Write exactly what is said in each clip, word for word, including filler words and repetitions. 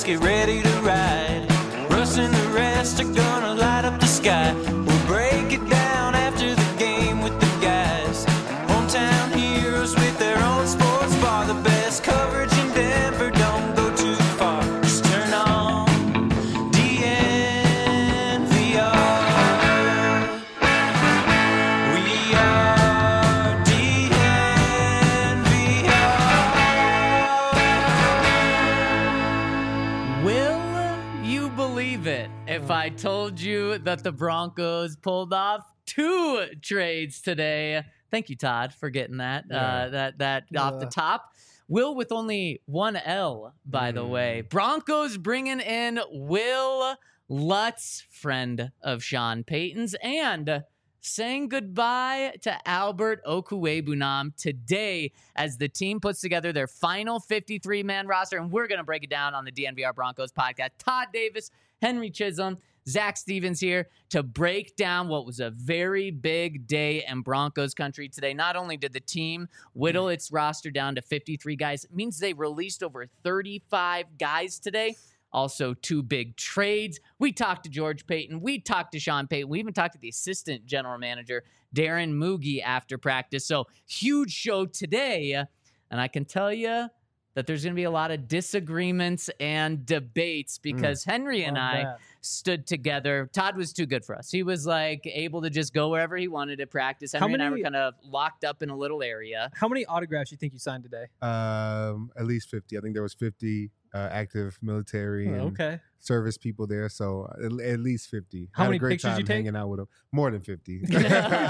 get ready to ride. Russ and the rest are gonna light up the sky. We'll break it down after the game with the guys. Hometown heroes with their own sports bar. The best coverage in Denver, don't go too far. Just turn on D N V R. We are D N V R. Will you believe it if I told you that the Broncos pulled off two trades today? Thank you, Todd, for getting that Yeah. uh, that that off the top. Will with only one L, by the way. Broncos bringing in Will Lutz, friend of Sean Payton's, and saying goodbye to Albert Okwuegbunam today as the team puts together their final fifty-three man roster. And we're going to break it down on the D N V R Broncos podcast. Todd Davis, Henry Chisholm, Zach Stevens here to break down what was a very big day in Broncos country today. Not only did the team whittle its roster down to fifty-three guys, it means they released over thirty-five guys today. Also, two big trades. We talked to George Paton. We talked to Sean Payton. We even talked to the assistant general manager, Darren Moogie, after practice. So, huge show today. And I can tell you that there's going to be a lot of disagreements and debates because mm. Henry and Love I that. stood together. Todd was too good for us. He was like able to just go wherever he wanted to practice. Henry many, and I were kind of locked up in a little area. How many autographs do you think you signed today? Um, at least fifty. I think there was fifty uh, active military and Oh, okay. service people there, so at, at least fifty. How had many a great pictures time you take? hanging out with them. More than fifty. uh,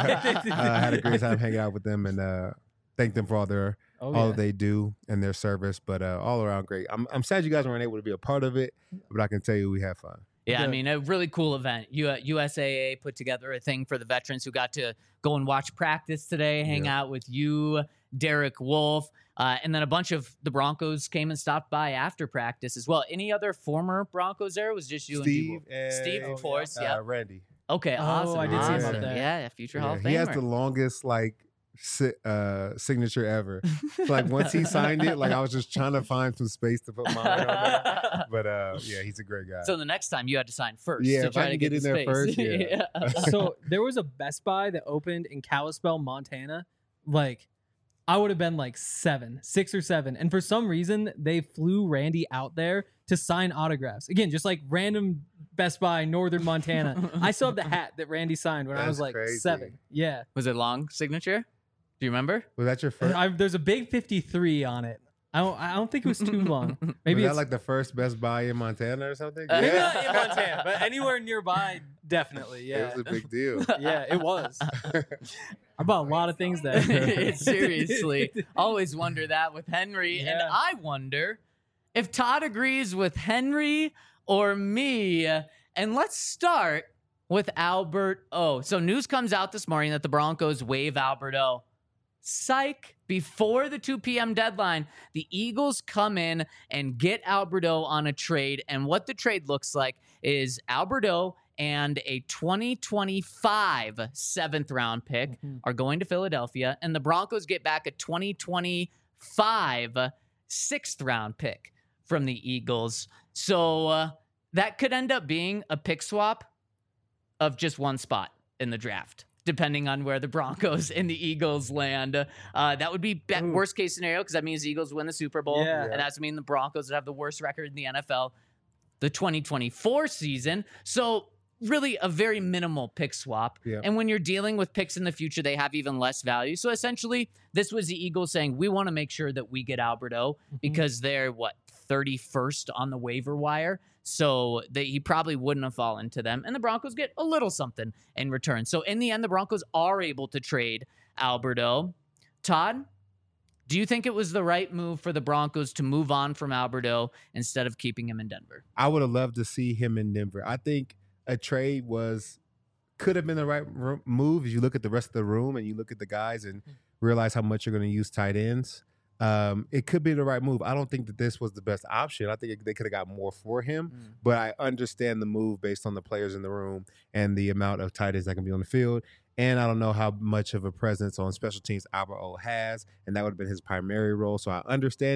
had a great time hanging out with them and uh, thank them for all their Oh, all yeah. that they do and their service. But uh, all around great. I'm I'm sad you guys weren't able to be a part of it, but I can tell you we had fun. Yeah, I Good. mean, a really cool event. U- U S A A put together a thing for the veterans who got to go and watch practice today, hang Yeah. out with you, Derek Wolf, uh, and then a bunch of the Broncos came and stopped by after practice as well. Any other former Broncos there? It was just you Steve and D-Wolf? Steve, and, of course, uh, yeah. Randy. Okay, Oh, awesome. I did see awesome. about that. Yeah, future Hall Yeah, of Famer. he has the longest like si- uh, signature ever. So, like once he signed it, like I was just trying to find some space to put mine on there. But uh, yeah, he's a great guy. So the next time you had to sign first Yeah, to if I try to can get, get the in there space. first, yeah. So there was a Best Buy that opened in Kalispell, Montana. Like, I would have been like seven, six or seven. And for some reason, they flew Randy out there to sign autographs. Again, just like random Best Buy, Northern Montana. I still have the hat that Randy signed when I was That's like crazy. seven. Yeah. Was it long signature? Do you remember? Was that your first? I, there's a big fifty-three on it. I don't, I don't think it was too long. Maybe was it's that like the first Best Buy in Montana or something? Uh, maybe not in Montana, but anywhere nearby, definitely. Yeah. It was a big deal. Yeah, it was. I bought a lot of things there. Seriously. Always wonder that with Henry. And Yeah. I wonder if Todd agrees with Henry or me. And let's start with Albert O. So news comes out this morning that the Broncos waive Albert O. Psych. Before the two p.m. deadline, the Eagles come in and get Albert O on a trade. And what the trade looks like is Albert O and a twenty twenty-five seventh round pick Mhm. are going to Philadelphia. And the Broncos get back a twenty twenty-five sixth round pick from the Eagles. So uh, that could end up being a pick swap of just one spot in the draft, depending on where the Broncos and the Eagles land. Uh, that would be, be- Ooh. worst case scenario because that means the Eagles win the Super Bowl. Yeah. And that's mean the Broncos would have the worst record in the N F L the twenty twenty-four season. So really a very minimal pick swap. Yeah. And when you're dealing with picks in the future, they have even less value. So essentially, this was the Eagles saying, we want to make sure that we get Albert O because they're, what, thirty-first on the waiver wire. So they, he probably wouldn't have fallen to them. And the Broncos get a little something in return. So in the end, the Broncos are able to trade Albert O. Todd, do you think it was the right move for the Broncos to move on from Albert O instead of keeping him in Denver? I would have loved to see him in Denver. I think a trade was could have been the right ro- move. As you look at the rest of the room and you look at the guys and realize how much you're going to use tight ends. Um, it could be the right move. I don't think that this was the best option. I think it, they could have got more for him, Mm. but I understand the move based on the players in the room and the amount of tight ends that can be on the field. And I don't know how much of a presence on special teams Albert O has, and that would have been his primary role. So I understand it.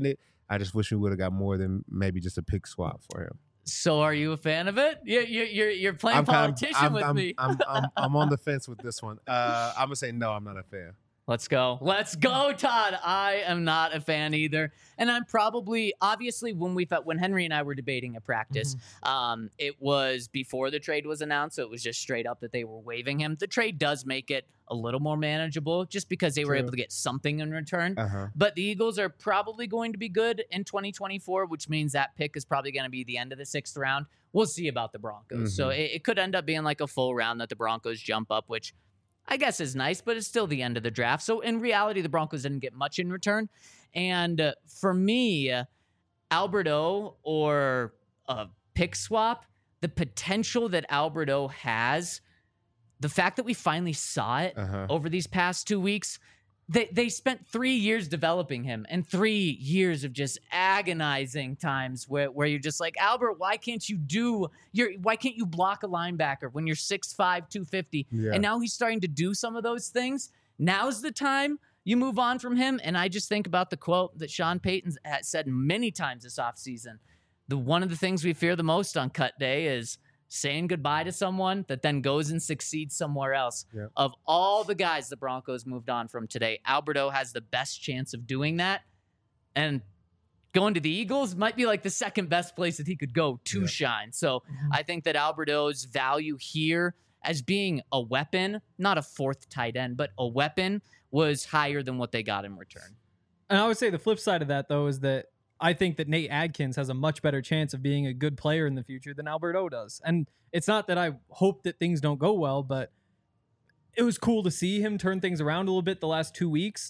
I just wish we would have got more than maybe just a pick swap for him. So are you a fan of it? You're you're you're, you're playing I'm kind of- politician I'm, with I'm, me. I'm, I'm, I'm on the fence with this one. Uh, I'm gonna say no. I'm not a fan. Let's go. Let's go, Todd. I am not a fan either. And I'm probably, obviously, when we felt, when Henry and I were debating at practice, Mm-hmm. um, it was before the trade was announced. So it was just straight up that they were waiving him. The trade does make it a little more manageable just because they were True. able to get something in return. Uh huh. But the Eagles are probably going to be good in twenty twenty-four, which means that pick is probably going to be the end of the sixth round. We'll see about the Broncos. So Mhm. it, it could end up being like a full round that the Broncos jump up, which I guess is nice, but it's still the end of the draft. So in reality, the Broncos didn't get much in return. And uh, for me, uh, Alberto or a pick swap, the potential that Alberto has, the fact that we finally saw it Uh huh. over these past two weeks, they they spent three years developing him and three years of just agonizing times where, where you're just like, Albert, why can't you do your why can't you block a linebacker when you're six five, two fifty? Yeah. And now he's starting to do some of those things. Now's the time you move on from him. And I just think about the quote that Sean Payton has said many times this offseason. The one of the things we fear the most on cut day is saying goodbye to someone that then goes and succeeds somewhere else. Yep. Of all the guys the Broncos moved on from today, Alberto has the best chance of doing that. And going to the Eagles might be like the second best place that he could go to Yeah. shine. So Mhm. I think that Alberto's value here as being a weapon, not a fourth tight end, but a weapon, was higher than what they got in return. And I would say the flip side of that, though, is that I think that Nate Adkins has a much better chance of being a good player in the future than Alberto does. And it's not that I hope that things don't go well, but it was cool to see him turn things around a little bit the last two weeks.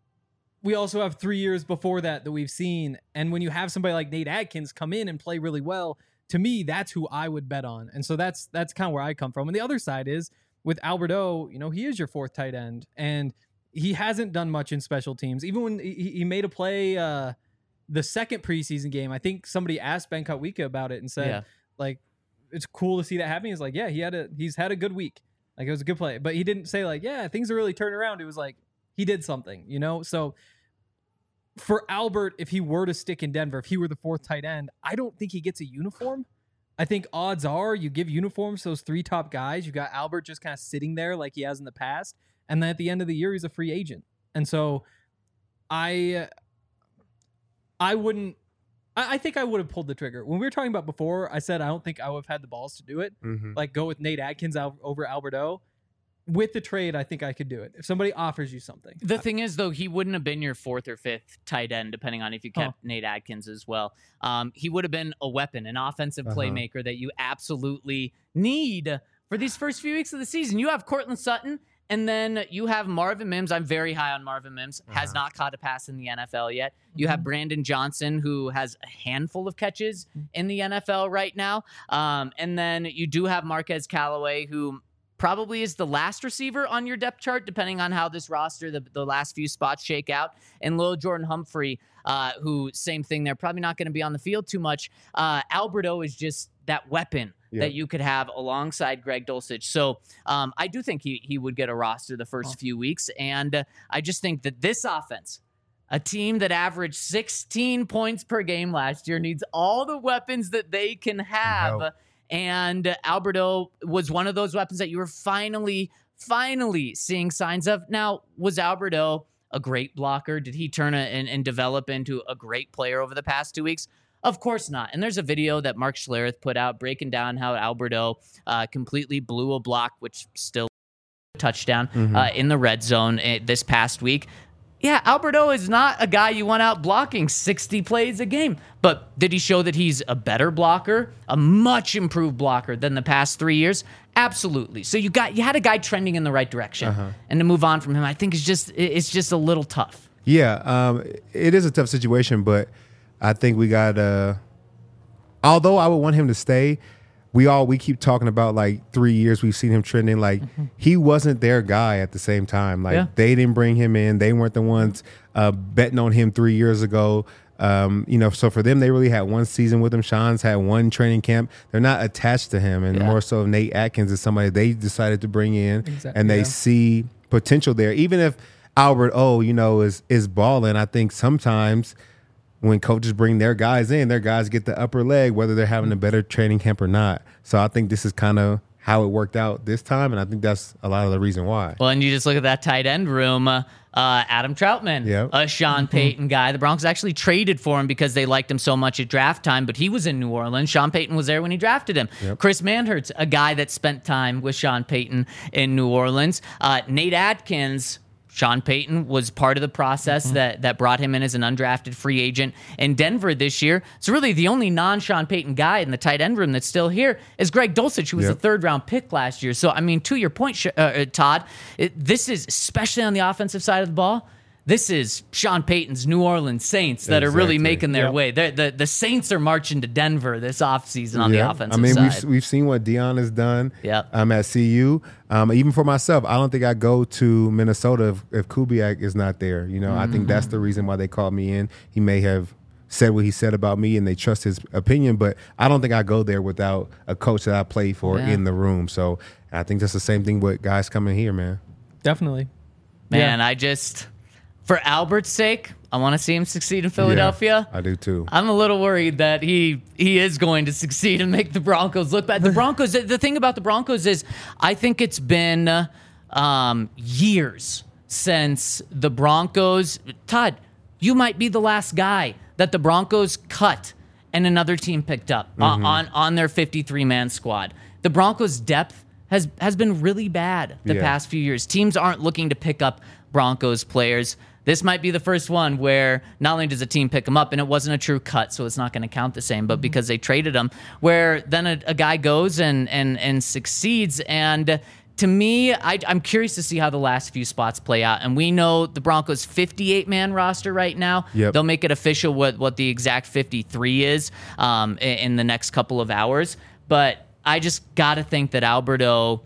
We also have three years before that that we've seen. And when you have somebody like Nate Adkins come in and play really well, to me, that's who I would bet on. And so that's that's kind of where I come from. And the other side is with Alberto, you know, he is your fourth tight end. And he hasn't done much in special teams. Even when he, he made a play uh, the second preseason game, I think somebody asked Ben Kotwika about it and said, Yeah. like, it's cool to see that happening. He's like, yeah, he had a he's had a good week. Like, it was a good play. But he didn't say, like, yeah, things are really turning around. It was like, he did something, you know? So for Albert, if he were to stick in Denver, if he were the fourth tight end, I don't think he gets a uniform. I think odds are you give uniforms to those three top guys. You got Albert just kind of sitting there like he has in the past. And then at the end of the year, he's a free agent. And so I I wouldn't I, I think I would have pulled the trigger. When we were talking about before, I said I don't think I would have had the balls to do it. Mm-hmm. Like go with Nate Adkins out over Alberto. With the trade, I think I could do it. If somebody offers you something. The thing is, though, he wouldn't have been your fourth or fifth tight end, depending on if you kept Nate Adkins as well. Um, he would have been a weapon, an offensive Uh-huh. playmaker that you absolutely need for these first few weeks of the season. You have Cortland Sutton, and then you have Marvin Mims. I'm very high on Marvin Mims. Has Uh-huh. not caught a pass in the N F L yet. You have Brandon Johnson, who has a handful of catches in the N F L right now. Um, and then you do have Marquez Callaway, who probably is the last receiver on your depth chart, depending on how this roster, the, the last few spots shake out. And Lil Jordan Humphrey, uh, who, same thing, they're probably not going to be on the field too much. Uh, Alberto is just that weapon Yep. that you could have alongside Greg Dulcich. So um, I do think he, he would get a roster the first Oh. few weeks. And uh, I just think that this offense, a team that averaged sixteen points per game last year, needs all the weapons that they can have. Help. And Alberto was one of those weapons that you were finally, finally seeing signs of. Now, was Alberto a great blocker? Did he turn a, and, and develop into a great player over the past two weeks? Of course not. And there's a video that Mark Schlereth put out breaking down how Alberto uh, completely blew a block, which still a touchdown Mhm. uh, in the red zone uh, this past week. Yeah, Alberto is not a guy you want out blocking sixty plays a game. But did he show that he's a better blocker, a much improved blocker than the past three years? Absolutely. So you got you had a guy trending in the right direction, Uh-huh. and to move on from him, I think is just it's just a little tough. Yeah, um, it is a tough situation, but I think we got. Uh, although I would want him to stay, we all we keep talking about like three years. We've seen him trending. Like he wasn't their guy at the same time. Like Yeah. they didn't bring him in. They weren't the ones uh, betting on him three years ago. Um, you know, so for them, they really had one season with him. Sean's had one training camp. They're not attached to him, and Yeah. more so Nate Adkins is somebody they decided to bring in, Exactly, and they yeah. see potential there. Even if Albert O, you know, is is balling, I think sometimes when coaches bring their guys in, their guys get the upper leg, whether they're having a better training camp or not. So I think this is kind of how it worked out this time, and I think that's a lot of the reason why. Well, and you just look at that tight end room. Uh, uh, Adam Troutman, Yep. a Sean Payton guy. The Broncos actually traded for him because they liked him so much at draft time, but he was in New Orleans. Sean Payton was there when he drafted him. Yep. Chris Manhertz, a guy that spent time with Sean Payton in New Orleans. Uh, Nate Atkins, Sean Payton was part of the process mm-hmm. that, that brought him in as an undrafted free agent in Denver this year. So really the only non-Sean Payton guy in the tight end room that's still here is Greg Dulcich, who was Yep. a third-round pick last year. So, I mean, to your point, Sh- uh, Todd, it, this is, especially on the offensive side of the ball, this is Sean Payton's New Orleans Saints that are really Exactly. making their Yep. way. They're, the the Saints are marching to Denver this offseason on Yeah. the offensive I mean, side. we've we've seen what Dion has done. Yep. Um, at C U. Um, even for myself, I don't think I go to Minnesota if, if Kubiak is not there. You know, mm-hmm. I think that's the reason why they called me in. He may have said what he said about me, and they trust his opinion. But I don't think I go there without a coach that I played for Yeah. in the room. So I think that's the same thing with guys coming here, man. Definitely. Man, I just, for Albert's sake, I want to see him succeed in Philadelphia. Yeah, I do too. I'm a little worried that he he is going to succeed and make the Broncos look bad. The Broncos, the, the thing about the Broncos is, I think it's been uh, um, years since the Broncos. Todd, you might be the last guy that the Broncos cut and another team picked up uh, on on their fifty-three man squad. The Broncos' depth has has been really bad the Yeah. past few years. Teams aren't looking to pick up Broncos players. This might be the first one where not only does a team pick them up, and it wasn't a true cut, so it's not going to count the same, but because they traded him, where then a, a guy goes and and and succeeds. And to me, I, I'm curious to see how the last few spots play out. And we know the Broncos' fifty-eight man roster right now. Yep. They'll make it official what what the exact fifty-three is um, in, in the next couple of hours. But I just got to think that Alberto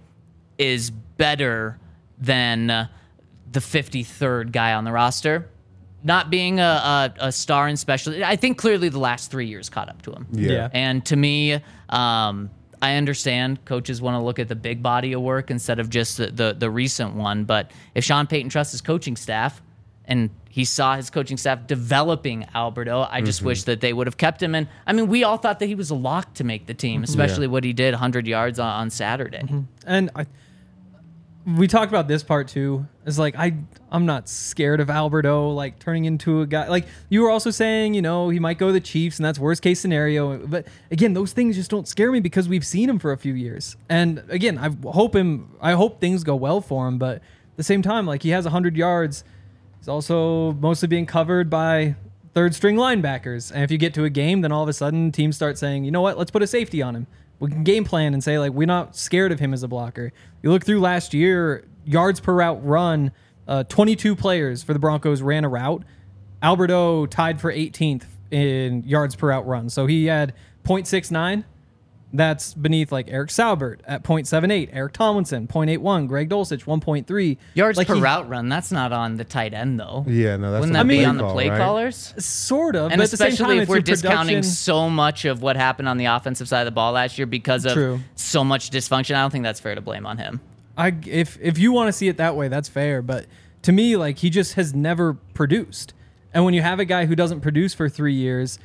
is better than uh, the fifty-third guy on the roster. Not being a, a, a star and special, I think clearly the last three years caught up to him. Yeah. Yeah. And to me, um, I understand coaches want to look at the big body of work instead of just the, the, the recent one. But if Sean Payton trusts his coaching staff, and he saw his coaching staff developing Alberto, I just Mm-hmm. wish that they would have kept him. And I mean, we all thought that he was a lock to make the team, especially what he did one hundred yards on, on Saturday. And I, we talked about this part too. It's like I, I'm not scared of Alberto like turning into a guy. Like you were also saying, you know, he might go to the Chiefs, and that's worst case scenario. But again, those things just don't scare me because we've seen him for a few years. And again, I hope him. I hope things go well for him. But at the same time, like he has one hundred yards. He's also mostly being covered by third string linebackers. And if you get to a game, then all of a sudden teams start saying, you know what, let's put a safety on him. We can game plan and say, like, we're not scared of him as a blocker. You look through last year, yards per route run, uh, twenty-two players for the Broncos ran a route. Alberto tied for eighteenth in yards per route run. So he had point six nine. That's beneath like Eric Saubert at point seven eight, Eric Tomlinson, point eight one, Greg Dulcich, one point three. Yards like per he, route run, that's not on the tight end, though. Yeah, no, that's Wouldn't on that the be play on the call, play right? callers? Sort of. And but at the same especially time, if it's we're your discounting production. so much of what happened on the offensive side of the ball last year because of True. so much dysfunction, I don't think that's fair to blame on him. I if if you want to see it that way, that's fair. But to me, like he just has never produced. And when you have a guy who doesn't produce for three years,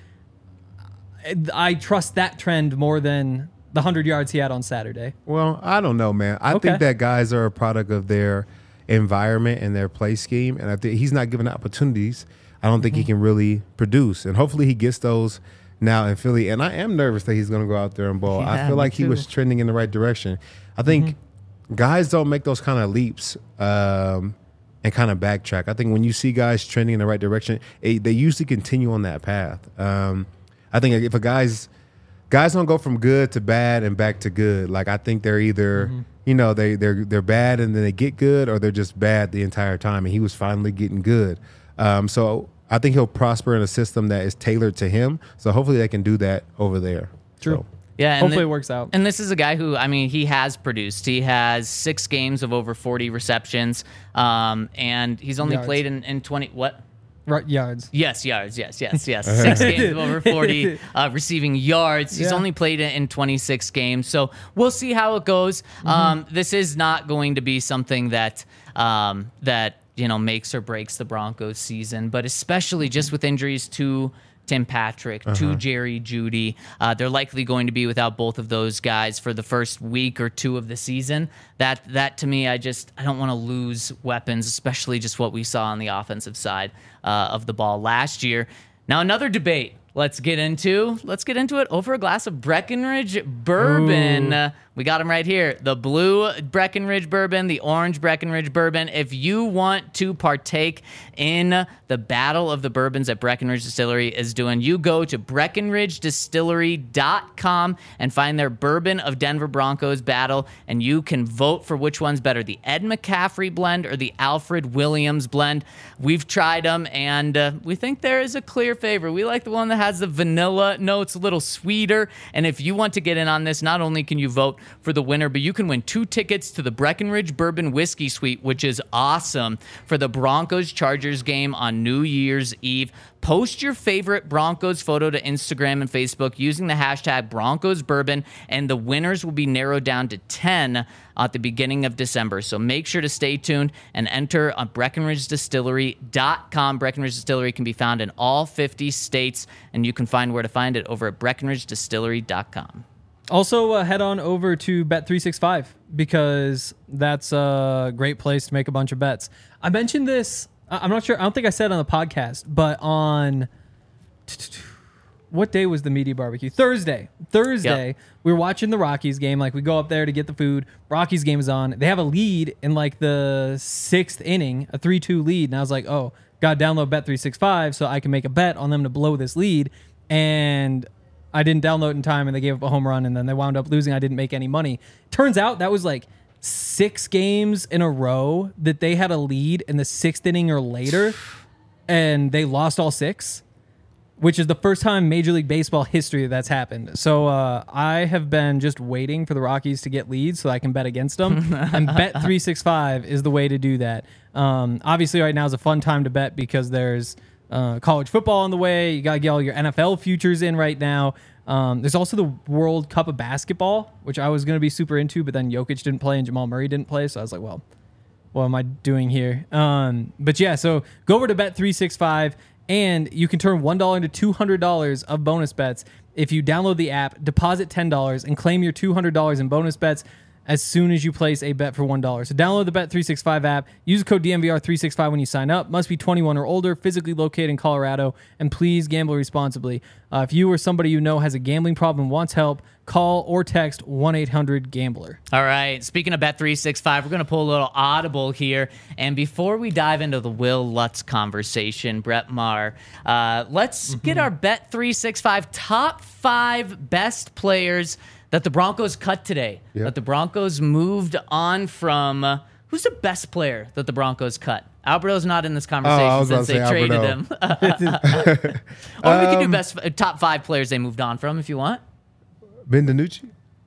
I, I trust that trend more than the hundred yards he had on Saturday. Well, I don't know, man. I Okay. think that guys are a product of their environment and their play scheme, and I think he's not given opportunities. I don't think he can really produce, and hopefully he gets those now in Philly. And I am nervous that he's going to go out there and ball. Yeah, I feel me like he was too. trending in the right direction. I think guys don't make those kind of leaps um, and kind of backtrack. I think when you see guys trending in the right direction, it, they usually continue on that path. Um, I think if a guy's guys don't go from good to bad and back to good. Like I think they're either, you know, they they're they're bad and then they get good, or they're just bad the entire time. And he was finally getting good. Um, so I think he'll prosper in a system that is tailored to him. So hopefully they can do that over there. True. So, Yeah, and Hopefully the- it works out. And this is a guy who, I mean, he has produced. He has six games of over forty receptions, um, and he's only Yards. played in, in twenty. What? Right, yards. Yes, yards. Yes, yes, yes. Six games of over forty uh, receiving yards. He's Yeah. only played in, in twenty-six games, so we'll see how it goes. Um, this is not going to be something that um, that you know makes or breaks the Broncos season, but especially just with injuries to Tim Patrick, Uh-huh. to Jerry Jeudy. Uh, they're likely going to be without both of those guys for the first week or two of the season. That that to me, I just I don't want to lose weapons, especially just what we saw on the offensive side uh, of the ball last year. Now another debate. Let's get into let's get into it over a glass of Breckenridge bourbon. Uh, we got them right here. The blue Breckenridge bourbon, the orange Breckenridge bourbon. If you want to partake in the battle of the bourbons that Breckenridge Distillery is doing, you go to Breckenridge Distillery dot com and find their Bourbon of Denver Broncos battle, and you can vote for which one's better, the Ed McCaffrey blend or the Alfred Williams blend. We've tried them, and uh, we think there is a clear favorite. We like the one that has the vanilla notes, a little sweeter. And if you want to get in on this, not only can you vote for the winner, but you can win two tickets to the Breckenridge Bourbon Whiskey Suite, which is awesome, for the Broncos-Chargers game on New Year's Eve. Post your favorite Broncos photo to Instagram and Facebook using the hashtag Broncos Bourbon, and the winners will be narrowed down to ten at the beginning of December. So make sure to stay tuned and enter on Breckenridge Distillery dot com. Breckenridge Distillery can be found in all fifty states, and you can find where to find it over at Breckenridge Distillery dot com. Also, uh, head on over to Bet three sixty-five because that's a great place to make a bunch of bets. I mentioned this. I- I'm not sure. I don't think I said it on the podcast, but on what day was the media barbecue? Thursday. Thursday, Yep. we were watching the Rockies game. Like, we go up there to get the food. Rockies game is on. They have a lead in like the sixth inning, a three two lead. And I was like, oh, got to download Bet three sixty-five so I can make a bet on them to blow this lead. And I didn't download in time, and they gave up a home run, and then they wound up losing. I didn't make any money. Turns out that was like six games in a row that they had a lead in the sixth inning or later, and they lost all six, which is the first time Major League Baseball history that's happened. So uh, I have been just waiting for the Rockies to get leads so I can bet against them, and Bet three sixty-five is the way to do that. Um, obviously, right now is a fun time to bet because there's Uh, college football on the way. You got to get all your N F L futures in right now. Um, there's also the World Cup of Basketball, which I was going to be super into, but then Jokic didn't play and Jamal Murray didn't play. So I was like, well, what am I doing here? Um, but yeah, so go over to Bet three sixty-five and you can turn one dollar into two hundred dollars of bonus bets if you download the app, deposit ten dollars, and claim your two hundred dollars in bonus bets as soon as you place a bet for one dollar. So download the Bet three sixty-five app. Use code D M V R three sixty-five when you sign up. Must be twenty-one or older, physically located in Colorado, and please gamble responsibly. Uh, if you or somebody you know has a gambling problem and wants help, call or text one eight hundred gambler. All right. Speaking of Bet three sixty-five, we're going to pull a little audible here. And before we dive into the Will Lutz conversation, Brett Maher, uh, let's mm-hmm. get our Bet three sixty-five top five best players that the Broncos cut today. Yep. That the Broncos moved on from. Uh, who's the best player that the Broncos cut? Alberto's not in this conversation Oh, I was since they about to say traded Alberto. him. Or we can do Um, best uh, top five players they moved on from if you want. Ben DiNucci?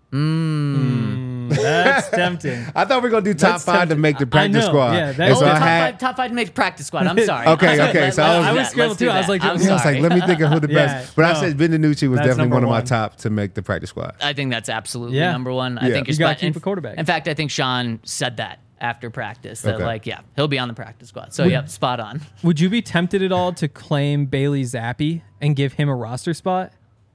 Mm. That's tempting. I thought we were going to do top That's five tempting. to make the I practice know, squad. yeah, that- And Oh, so I top, had, five, top five to make practice squad. I'm sorry. Okay, okay, so I was- I was Let's scrambled do too. I was that. like, I'm yeah, I was like, sorry. let me think of who the Yeah, best. But I no. said Ben DiNucci was That's definitely number one of my one. top to make the practice squad. I think that's absolutely Yeah. number one. I Yeah. think You you're gotta spot- keep in- a quarterback. In fact, I think Sean said that after practice that Okay. like, yeah, he'll be on the practice squad. So yep, spot on. Would you be tempted at all to claim Bailey Zappi and give him a roster spot?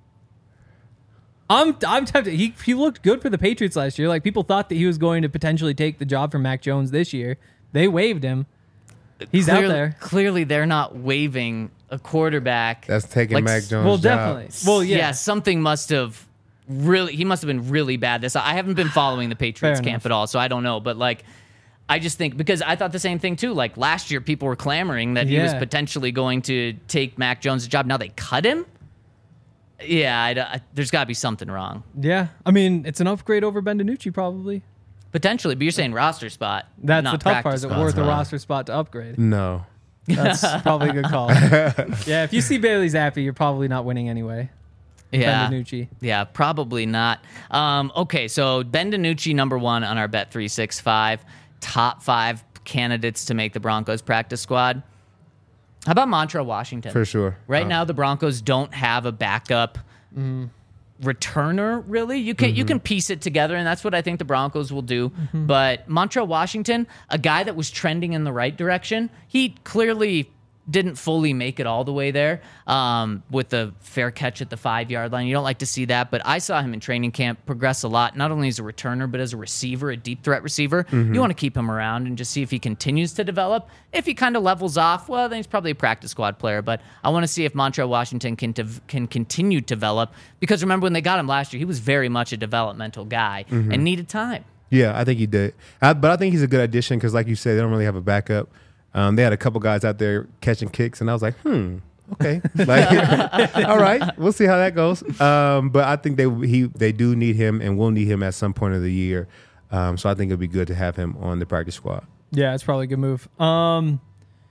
I'm I'm tempted. He he looked good for the Patriots last year. Like, people thought that he was going to potentially take the job from Mac Jones this year. They waived him. He's clearly, out there. Clearly, they're not waiving a quarterback. That's taking Like, Mac Jones' Well, job. definitely. Well, yeah. yeah, something must have really. He must have been really bad. This I haven't been following the Patriots Fair camp enough. at all, so I don't know. But like, I just think because I thought the same thing too. Like last year, people were clamoring that he was Yeah. potentially going to take Mac Jones' job. Now they cut him. Yeah, I, I, there's got to be something wrong. Yeah. I mean, it's an upgrade over Ben DiNucci probably. Potentially, but you're saying roster spot. That's not the tough part. practice Is it squad. worth a roster spot to upgrade? No. That's probably a good call. Yeah, if you see Bailey Zappi, you're probably not winning anyway. Yeah. Ben DiNucci. Yeah, probably not. Um, okay, so Ben DiNucci, number one on our Bet three sixty-five. Top five candidates to make the Broncos practice squad. How about Montrell Washington? For sure. Right Uh, now, the Broncos don't have a backup returner, really. You can you can piece it together, and that's what I think the Broncos will do. But Montrell Washington, a guy that was trending in the right direction, he clearly didn't fully make it all the way there um, with the fair catch at the five-yard line. You don't like to see that, but I saw him in training camp progress a lot, not only as a returner, but as a receiver, a deep threat receiver. Mm-hmm. You want to keep him around and just see if he continues to develop. If he kind of levels off, well, then he's probably a practice squad player, but I want to see if Montrell Washington can, to, can continue to develop, because remember when they got him last year, he was very much a developmental guy mm-hmm. and needed time. Yeah, I think he did. I, but I think he's a good addition because, like you said, they don't really have a backup. Um, they had a couple guys out there catching kicks, and I was like, hmm, okay. Like, all right, we'll see how that goes. Um, but I think they he they do need him and will need him at some point of the year. Um, so I think it'd be good to have him on the practice squad. Yeah, it's probably a good move. Um,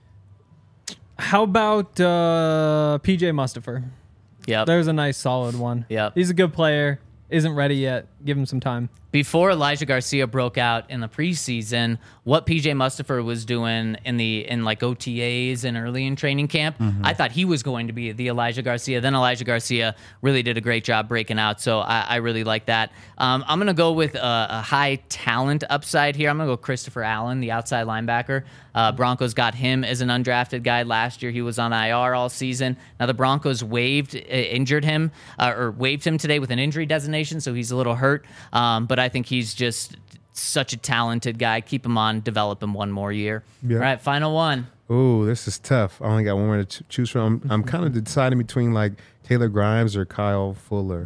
how about uh, P J Mustipher? Yeah, there's a nice solid one. Yeah, he's a good player. Isn't ready yet. Give him some time. Before Elijah Garcia broke out in the preseason, what P J Mustipher was doing in the in like O T As and early in training camp, mm-hmm. I thought he was going to be the Elijah Garcia. Then Elijah Garcia really did a great job breaking out, so I, I really like that. Um, I'm going to go with a, a high talent upside here. I'm going to go Christopher Allen, the outside linebacker. Uh, Broncos got him as an undrafted guy last year. He was on I R all season. Now the Broncos waived, uh, injured him, uh, or waived him today with an injury designation, so he's a little hurt. Um, but I think he's just such a talented guy. Keep him on, develop him one more year. Yeah. All right, final one. Ooh, this is tough. I only got one more to ch- choose from. I'm, I'm kind of deciding between like Taylor Grimes or Kyle Fuller.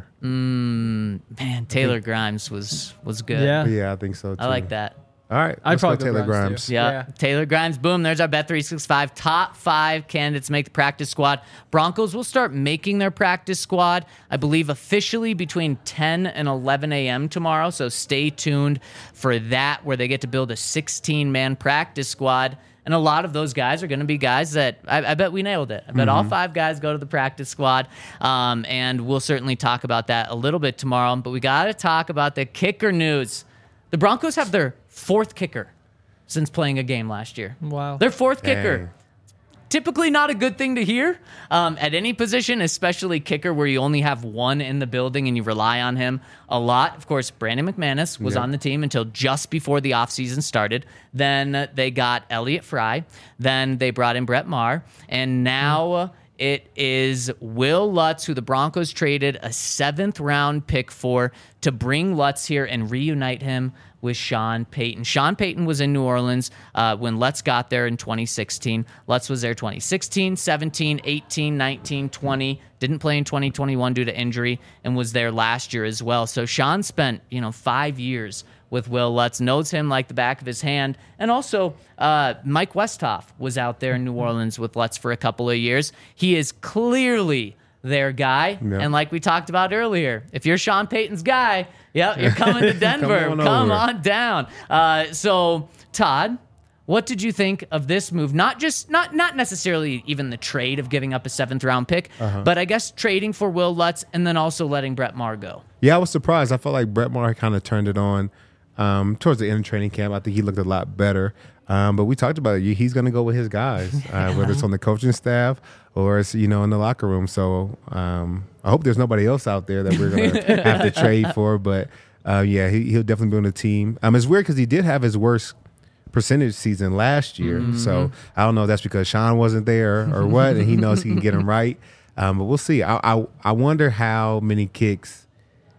Mm, man, Taylor Grimes was was good. Yeah, yeah, I think so too. I like that. All right, I'd probably Taylor Grimes. Grimes yeah. yeah, Taylor Grimes. Boom. There's our Bet three sixty-five top five candidates make the practice squad. Broncos will start making their practice squad, I believe, officially between ten and eleven a.m. tomorrow. So stay tuned for that, where they get to build a sixteen-man practice squad. And a lot of those guys are going to be guys that I, I bet we nailed it. I bet mm-hmm. all five guys go to the practice squad. Um, and we'll certainly talk about that a little bit tomorrow. But we got to talk about the kicker news. The Broncos have their fourth kicker since playing a game last year. Wow. Their fourth Dang. kicker. Typically not a good thing to hear um, at any position, especially kicker where you only have one in the building and you rely on him a lot. Of course, Brandon McManus was yep. on the team until just before the offseason started. Then they got Elliott Fry. Then they brought in Brett Maher. And now... Mm. It is Will Lutz, who the Broncos traded a seventh round pick for, to bring Lutz here and reunite him with Sean Payton. Sean Payton was in New Orleans uh, when Lutz got there in twenty sixteen. Lutz was there twenty sixteen, seventeen, eighteen, nineteen, twenty. Didn't play in twenty twenty-one due to injury and was there last year as well. So Sean spent, you know, five years with Will Lutz, knows him like the back of his hand. And also, uh, Mike Westhoff was out there in New Orleans with Lutz for a couple of years. He is clearly their guy. Yeah. And like we talked about earlier, if you're Sean Payton's guy, yeah, you're coming to Denver. Come on, Come on down. Uh, so, Todd, what did you think of this move? Not just, not not necessarily even the trade of giving up a seventh round pick, uh-huh. but I guess trading for Will Lutz and then also letting Brett Maher go. Yeah, I was surprised. I felt like Brett Maher kind of turned it on um, towards the end of training camp. I think he looked a lot better. Um, but we talked about it. He's going to go with his guys, uh, whether it's on the coaching staff or it's, you know, in the locker room. So um, I hope there's nobody else out there that we're going to have to trade for. But, uh, yeah, he, he'll definitely be on the team. Um, it's weird because he did have his worst percentage season last year. Mm-hmm. So I don't know if that's because Sean wasn't there or what, and he knows he can get him right. Um, but we'll see. I, I I wonder how many kicks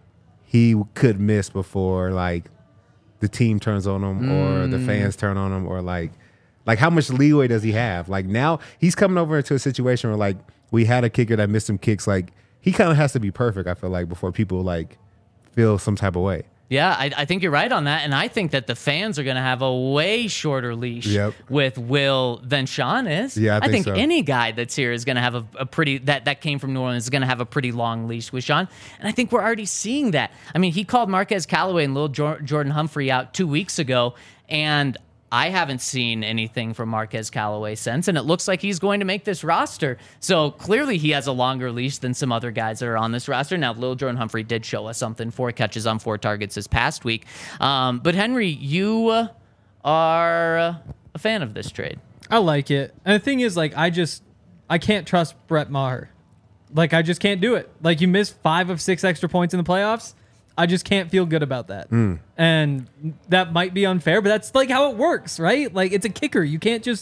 he could miss before, like, the team turns on him or mm. the fans turn on him, or like, like how much leeway does he have? Like now he's coming over into a situation where like we had a kicker that missed some kicks. Like he kind of has to be perfect, I feel like, before people like feel some type of way. Yeah, I, I think you're right on that. And I think that the fans are going to have a way shorter leash yep. with Will than Sean is. Yeah, I think, I think so. any guy that's here is going to have a, a pretty, that, that came from New Orleans, is going to have a pretty long leash with Sean. And I think we're already seeing that. I mean, he called Marquez Callaway and Lil Jor- Jordan Humphrey out two weeks ago, and I haven't seen anything from Marquez Callaway since, and it looks like he's going to make this roster. So clearly he has a longer leash than some other guys that are on this roster. Now, Lil Jordan Humphrey did show us something, four catches on four targets this past week. Um, but Henry, you uh, are uh, a fan of this trade. I like it. And the thing is, like, I just, I can't trust Brett Maher. Like, I just can't do it. Like, you missed five of six extra points in the playoffs. I just can't feel good about that. Mm. And that might be unfair, but that's like how it works, right? Like, it's a kicker. You can't just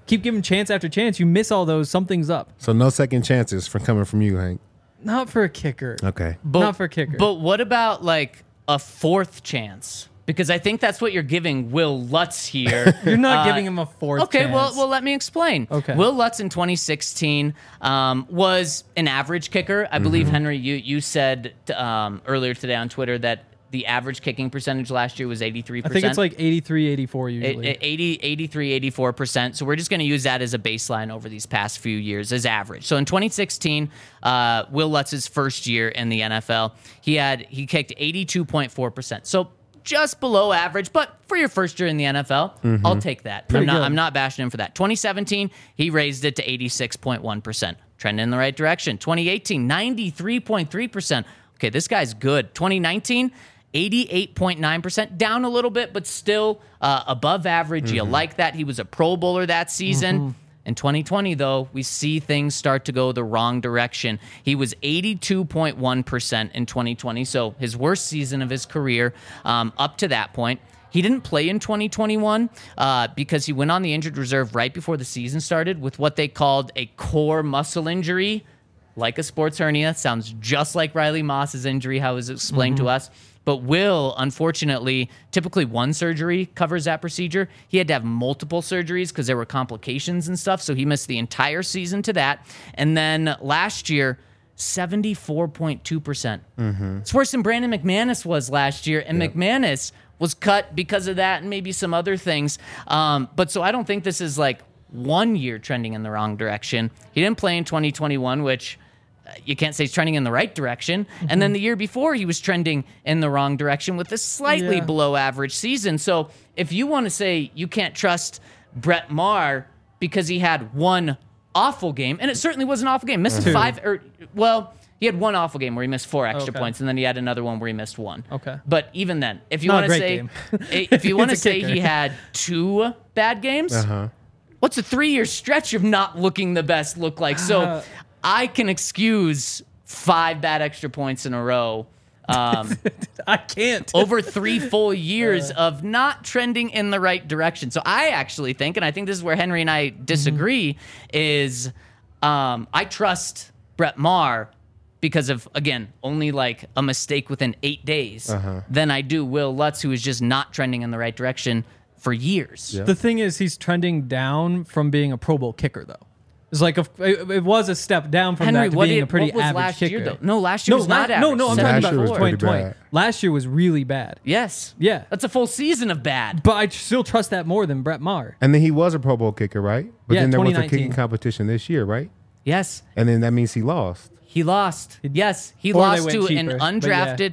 keep giving chance after chance. You miss all those, something's up. So no second chances from coming from you, Hank. Not for a kicker. Okay. But, Not for a kicker. But what about like a fourth chance? Because I think that's what you're giving Will Lutz here. You're not Uh, giving him a fourth Okay, chance. well, well, let me explain. Okay. Will Lutz in twenty sixteen um, was an average kicker. I believe, Henry, you you said um, earlier today on Twitter that the average kicking percentage last year was eighty-three I percent. think it's like eighty-three, eighty-four usually. It- it- eighty, eighty-three, eighty-four percent. So we're just going to use that as a baseline over these past few years as average. So in twenty sixteen, uh, Will Lutz's first year in the N F L, he had he kicked eighty-two point four percent. So just below average, but for your first year in the N F L, I'll take that. Pretty I'm not good. I'm not bashing him for that. twenty seventeen, he raised it to eighty-six point one percent. Trending in the right direction. twenty eighteen, ninety-three point three percent. Okay, this guy's good. twenty nineteen, eighty-eight point nine percent, down a little bit, but still uh, above average. You like that. He was a Pro Bowler that season. In twenty twenty, though, we see things start to go the wrong direction. He was eighty-two point one percent in twenty twenty, so his worst season of his career um, up to that point. He didn't play in twenty twenty-one uh, because he went on the injured reserve right before the season started with what they called a core muscle injury, like a sports hernia. Sounds just like Riley Moss's injury, how it was explained to us. But Will, unfortunately, typically one surgery covers that procedure. He had to have multiple surgeries because there were complications and stuff, so he missed the entire season to that. And then last year, seventy-four point two percent. It's worse than Brandon McManus was last year, and McManus was cut because of that and maybe some other things. Um, but so I don't think this is like one year trending in the wrong direction. He didn't play in twenty twenty-one, which uh, you can't say he's trending in the right direction. And then the year before, he was trending in the wrong direction with a slightly Yeah. below average season. So if you want to say you can't trust Brett Maher because he had one awful game, and it certainly was an awful game, missed Two. five, or well, he had one awful game where he missed four extra Okay. points, and then he had another one where he missed one. Okay. But even then, if you Not a want to great say, game. i- if you want to It's a say kicker. he had two bad games, Uh-huh. what's a three-year stretch of not looking the best look like? So Uh, I can excuse five bad extra points in a row. Um, I can't. over three full years of not trending in the right direction. So I actually think, and I think this is where Henry and I disagree, is um, I trust Brett Maher because of, again, only like a mistake within eight days than I do Will Lutz, who is just not trending in the right direction for years. Yeah. The thing is, he's trending down from being a Pro Bowl kicker, though. It's like a, it, it was a step down from Henry, that to what, being did, a pretty what was average last kicker. year, though? No, last year No, was la- not average. no, no, I'm talking Last about year was twenty pretty twenty. bad. Last year was really bad. Yes. Yeah. That's a full season of bad. But I still trust that more than Brett Maher. And then he was a Pro Bowl kicker, right? But Yeah, then there was a twenty nineteen. kicking competition this year, right? Yes. And then that means he lost. He lost. Yes, he Or they lost went to cheaper, an but yeah. undrafted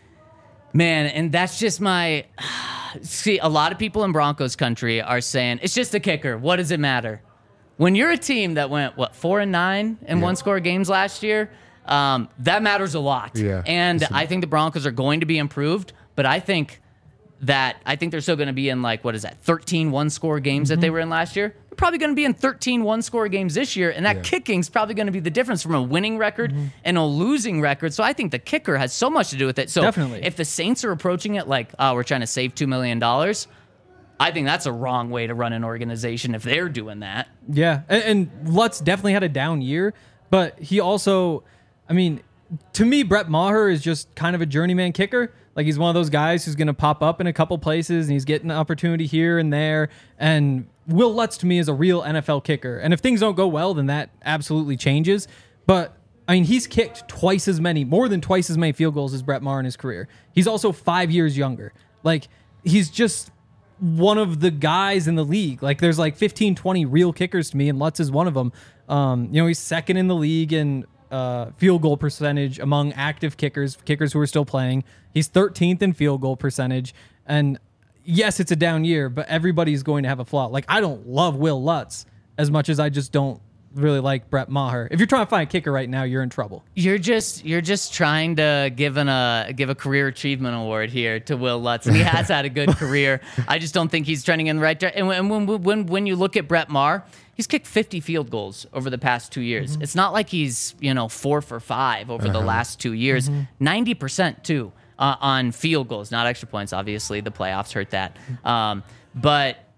man, and that's just my. See, a lot of people in Broncos country are saying it's just a kicker. What does it matter? When you're a team that went what four and nine in one score games last year, um, that matters a lot. Yeah. And I think the Broncos are going to be improved, but I think that I think they're still going to be in like what is that thirteen one score games that they were in last year. They're probably going to be in thirteen one score games this year, and that Yeah. kicking's probably going to be the difference from a winning record and a losing record. So I think the kicker has so much to do with it. So Definitely. if the Saints are approaching it like, oh, we're trying to save two million dollars, I think that's a wrong way to run an organization if they're doing that. Yeah, and, and Lutz definitely had a down year, but he also, I mean, to me, Brett Maher is just kind of a journeyman kicker. Like he's one of those guys who's going to pop up in a couple places and he's getting an opportunity here and there. And Will Lutz to me is a real N F L kicker. And if things don't go well, then that absolutely changes. But I mean, he's kicked twice as many, more than twice as many field goals as Brett Maher in his career. He's also five years younger. Like he's just one of the guys in the league. Like there's like fifteen, twenty real kickers to me, and Lutz is one of them. Um, you know, he's second in the league in uh, field goal percentage among active kickers, kickers who are still playing. He's thirteenth in field goal percentage. And yes, it's a down year, but everybody's going to have a flaw. Like I don't love Will Lutz as much as I just don't really like Brett Maher. If you're trying to find a kicker right now, you're in trouble. You're just you're just trying to give an a give a career achievement award here to Will Lutz, and he has had a good career. I just don't think he's trending in the right direction. And when when when when you look at Brett Maher, he's kicked fifty field goals over the past two years. Mm-hmm. It's not like he's you know four for five over the last two years. Mm-hmm. Ninety percent too uh, on field goals, not extra points. Obviously, the playoffs hurt that. Um, but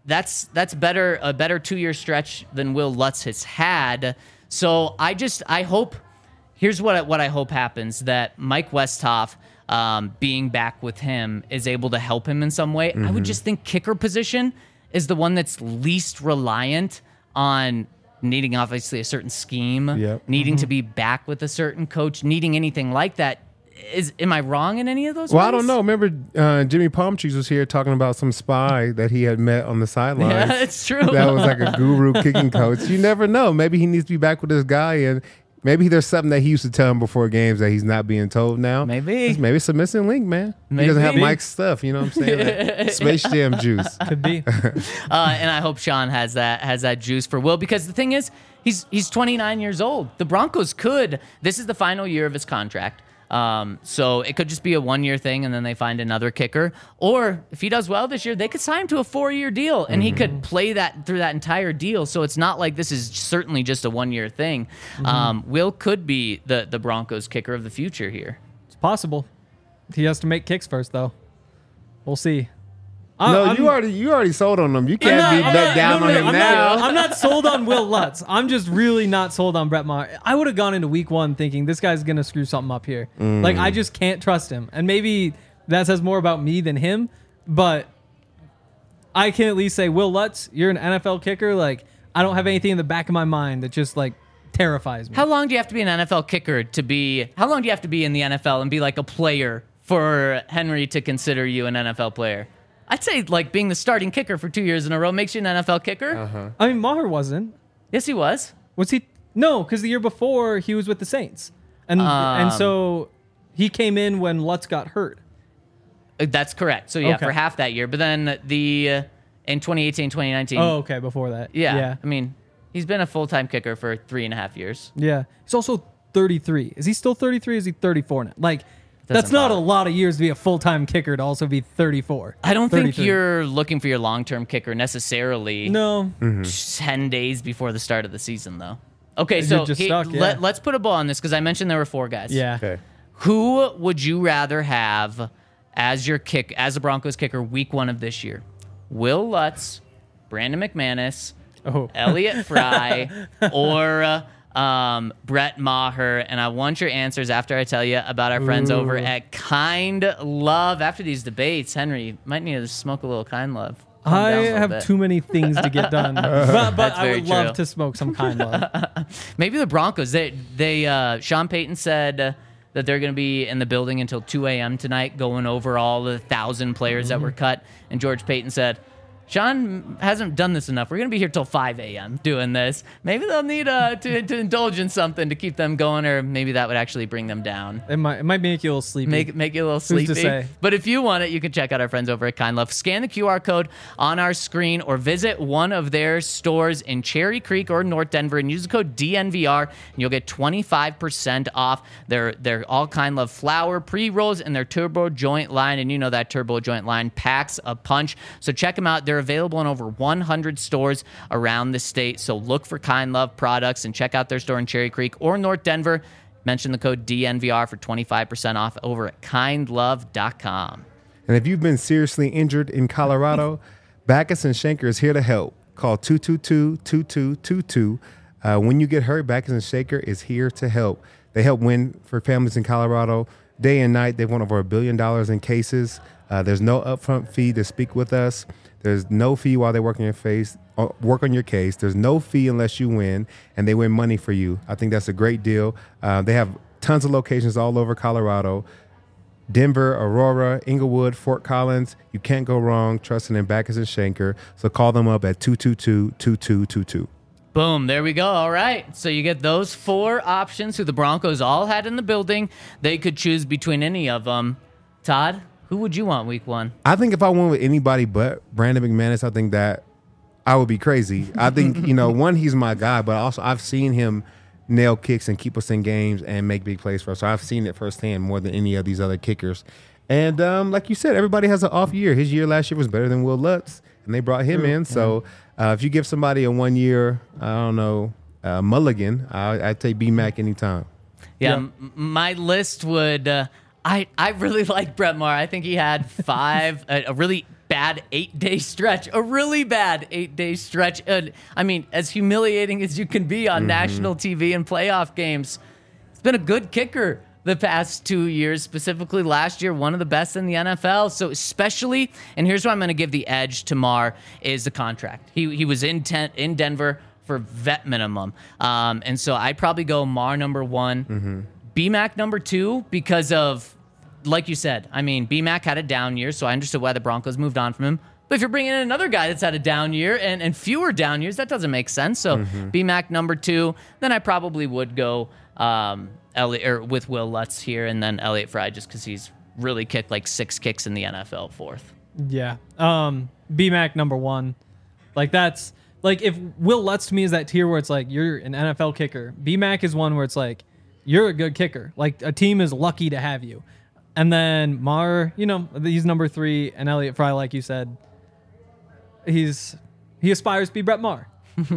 that's that's better a better two year stretch than Will Lutz has had. So I just I hope here's what I, what I hope happens, that Mike Westhoff, um, being back with him, is able to help him in some way. Mm-hmm. I would just think kicker position is the one that's least reliant on needing obviously a certain scheme, yep. needing Mm-hmm. to be back with a certain coach, needing anything like that. Is am I wrong in any of those Well, ways? I don't know. Remember, uh, Jimmy Palmtrees was here talking about some spy that he had met on the sidelines. Yeah, it's true. That was like a guru kicking coach. You never know. Maybe he needs to be back with this guy, and maybe there's something that he used to tell him before games that he's not being told now. Maybe. It's, maybe it's a missing link, man. He doesn't have Maybe. Mike's stuff. You know what I'm saying? Like Space Jam juice. Could be. Uh, and I hope Sean has that has that juice for Will, because the thing is, he's he's twenty-nine years old. The Broncos could. This is the final year of his contract. Um, so it could just be a one-year thing, and then they find another kicker. Or if he does well this year, they could sign him to a four-year deal, and mm-hmm. he could play that through that entire deal. So it's not like this is certainly just a one-year thing. Mm-hmm. Um, Will could be the the Broncos kicker of the future here. It's possible. He has to make kicks first, though. We'll see. No, I'm, you already you already sold on him. You can't not- be I'm let not- down no, on no, him I'm now. Not, I'm not sold on Will Lutz. I'm just really not sold on Brett Maher. I would have gone into week one thinking this guy's going to screw something up here. Mm. Like, I just can't trust him. And maybe that says more about me than him, but I can at least say, Will Lutz, you're an N F L kicker. Like, I don't have anything in the back of my mind that just, like, terrifies me. How long do you have to be an N F L kicker to be? How long do you have to be in the N F L and be like a player for Henry to consider you an N F L player? I'd say like being the starting kicker for two years in a row makes you an N F L kicker. Uh-huh. I mean, Maher wasn't. Yes, he was. Was he? No, because the year before he was with the Saints, and Um, and so he came in when Lutz got hurt. Uh, That's correct. So yeah, Okay. for half that year. But then the uh, in twenty eighteen, twenty nineteen. Oh, okay, before that. yeah, yeah, I mean, he's been a full-time kicker for three and a half years. yeah. He's also thirty-three. Is he still thirty-three? Is he thirty-four now? Like, that's Doesn't not a bother. lot of years to be a full-time kicker to also be thirty-four. I don't think thirty-three. you're looking for your long-term kicker necessarily. No. ten days before the start of the season, though. Okay, You're so just he- stuck, yeah. let, let's put a ball on this because I mentioned there were four guys. Yeah. Okay. Who would you rather have as your kick, as a Broncos kicker, week one of this year? Will Lutz, Brandon McManus, Oh. Elliott Fry, or uh, um, Brett Maher? And I want your answers after I tell you about our friends over Ooh. at Kind Love. After these debates, Henry might need to smoke a little Kind Love. Calm I down a little have bit. too many things to get done, but, but That's I very would love true. to smoke some Kind Love. Maybe the Broncos. They they uh, Sean Payton said uh, that they're going to be in the building until two a.m. tonight, going over all the thousand players that were cut. And George Payton said, Sean hasn't done this enough. We're going to be here till five a.m. doing this. Maybe they'll need uh, to, to indulge in something to keep them going, or maybe that would actually bring them down. It might it might make you a little sleepy. Make make you a little to sleepy. say? But if you want it, you can check out our friends over at Kind Love. Scan the Q R code on our screen or visit one of their stores in Cherry Creek or North Denver and use the code D N V R and you'll get twenty-five percent off their their all Kind Love flour, pre-rolls, and their turbo joint line. And you know that turbo joint line packs a punch. So check them out. They're available in over one hundred stores around the state. So look for Kind Love products and check out their store in Cherry Creek or North Denver. Mention the code D N V R for twenty-five percent off over at kind love dot com. And if you've been seriously injured in Colorado, Backus and Shanker is here to help. Call two two two, two two two two. Uh, when you get hurt, Backus and Shanker is here to help. They help win for families in Colorado day and night. They've won over a billion dollars in cases. Uh, there's no upfront fee to speak with us. There's no fee while they work on your face, uh, work on your case. There's no fee unless you win, and they win money for you. I think that's a great deal. Uh, they have tons of locations all over Colorado. Denver, Aurora, Inglewood, Fort Collins. You can't go wrong trusting in Backus and Shanker. So call them up at two two two, two two two two. Boom, there we go. All right. So you get those four options who the Broncos all had in the building. They could choose between any of them. Todd, who would you want week one? I think if I went with anybody but Brandon McManus, I think that I would be crazy. I think, you know, one, he's my guy, but also I've seen him nail kicks and keep us in games and make big plays for us. So I've seen it firsthand more than any of these other kickers. And um, like you said, everybody has an off year. His year last year was better than Will Lutz, and they brought him in. So uh, if you give somebody a one year, I don't know, uh, mulligan, I, I'd take B-Mac anytime. Yeah, Yeah. m- my list would. Uh, I I really like Brett Maher. I think he had five a, a really bad eight-day stretch, a really bad eight-day stretch. Uh, I mean, as humiliating as you can be on Mm-hmm. national T V and playoff games, it's been a good kicker the past two years, specifically last year, one of the best in the N F L. So especially, and here's why I'm going to give the edge to Mar, is the contract. He he was in ten, in Denver for vet minimum. Um, and so I'd probably go Mar number one, Mm-hmm. B-Mac number two, because of, like you said, I mean, B-Mac had a down year, so I understood why the Broncos moved on from him. But if you're bringing in another guy that's had a down year and, and fewer down years, that doesn't make sense. So Mm-hmm. B-Mac number two, then I probably would go um, Elliot, or with Will Lutz here, and then Elliott Fry just because he's really kicked like six kicks in the N F L fourth. Yeah. Um, B-Mac number one. Like that's like if Will Lutz to me is that tier where it's like you're an N F L kicker. B-Mac is one where it's like you're a good kicker. Like a team is lucky to have you. And then Mar, you know, he's number three, and Elliott Fry, like you said, he's he aspires to be Brett Maher.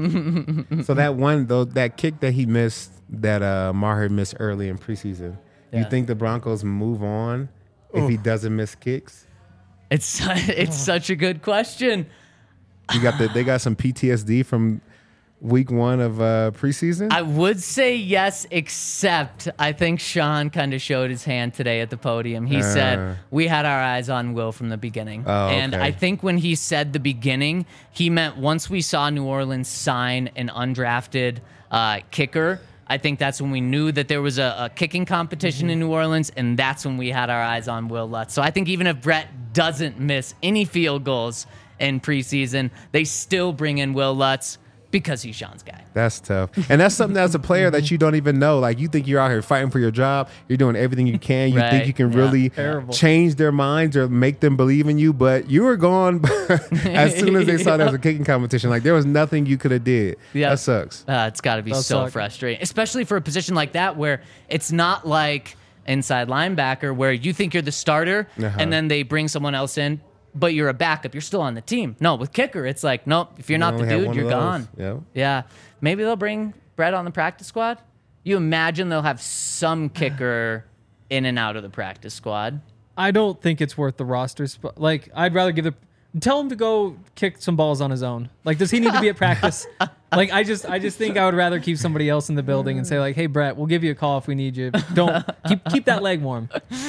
So that one though, that kick that he missed, that uh, Maher missed early in preseason. You Yeah. think the Broncos move on if he doesn't miss kicks? It's it's such a good question. You got the they got some P T S D from week one of uh, preseason. I would say yes, except I think Sean kind of showed his hand today at the podium. He Uh. said, we had our eyes on Will from the beginning. Oh, and okay. I think when he said the beginning, he meant once we saw New Orleans sign an undrafted uh, kicker, I think that's when we knew that there was a, a kicking competition Mm-hmm. in New Orleans, and that's when we had our eyes on Will Lutz. So I think even if Brett doesn't miss any field goals in preseason, they still bring in Will Lutz because he's Sean's guy. That's tough. And that's something as a player that you don't even know. Like, you think you're out here fighting for your job. You're doing everything you can. You Right. think you can Yeah. really Terrible. change their minds or make them believe in you. But you were gone as soon as they saw there was a kicking competition. Like, there was nothing you could have did. Yeah. That sucks. Uh, it's got to be Does so suck. frustrating, especially for a position like that where it's not like inside linebacker where you think you're the starter Uh-huh. and then they bring someone else in, but you're a backup. You're still on the team. No, with kicker, it's like, nope, if you're not the only had dude, one you're of those. gone. Yep. Yeah. Maybe they'll bring Brett on the practice squad. You imagine they'll have some kicker in and out of the practice squad. I don't think it's worth the roster spot. Like, I'd rather give the tell him to go kick some balls on his own. Like, does he need to be at practice? Like, I just, I just think I would rather keep somebody else in the building and say like, hey, Brett, we'll give you a call if we need you. Don't keep keep that leg warm.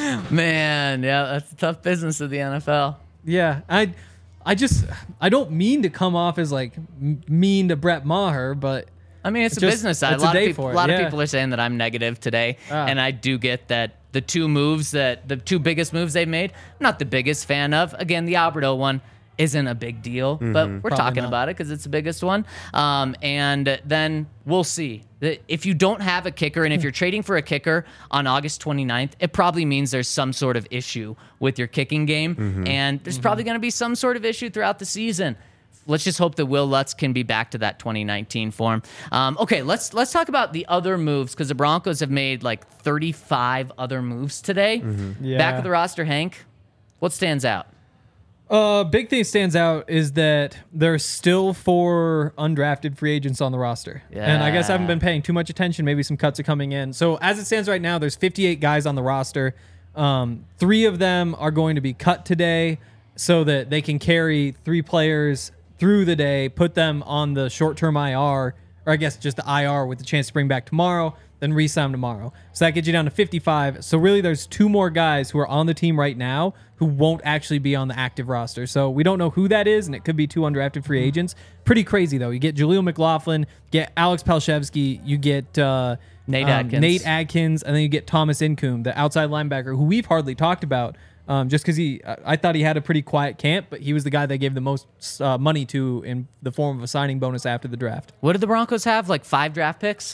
Man, yeah, that's a tough business of the N F L. Yeah, I, I just, I don't mean to come off as like m- mean to Brett Maher, but I mean, it's a Just- business side. it's A a lot, of day people, for a it, lot yeah. of people are saying that I'm negative today, Ah. and I do get that the two moves that the two biggest moves they've made. I'm not the biggest fan of. Again, the Alberto one isn't a big deal, but we're Probably talking not. about it because it's the biggest one. Um, and then we'll see. That if you don't have a kicker and if you're trading for a kicker on August twenty-ninth, it probably means there's some sort of issue with your kicking game, and there's probably going to be some sort of issue throughout the season. Let's just hope that Will Lutz can be back to that twenty nineteen form. Um, okay, let's let's talk about the other moves because the Broncos have made like thirty-five other moves today. yeah. Back of the roster, Hank. What stands out? Uh, big thing stands out is that there's still four undrafted free agents on the roster. And I guess I haven't been paying too much attention. Maybe some cuts are coming in. So as it stands right now, there's fifty-eight guys on the roster. Um, three of them are going to be cut today so that they can carry three players through the day, put them on the short-term I R, or I guess just the I R with the chance to bring back tomorrow, then re-sign them tomorrow. So that gets you down to fifty-five. So really there's two more guys who are on the team right now who won't actually be on the active roster. So we don't know who that is, and it could be two undrafted free agents. Pretty crazy, though. You get Jaleel McLaughlin, get Alex Palshevsky, you get uh, Nate um, Adkins. Nate Adkins, and then you get Thomas Incoom, the outside linebacker, who we've hardly talked about um, just because he, I I thought he had a pretty quiet camp, but he was the guy they gave the most uh, money to in the form of a signing bonus after the draft. What did the Broncos have? Like five draft picks?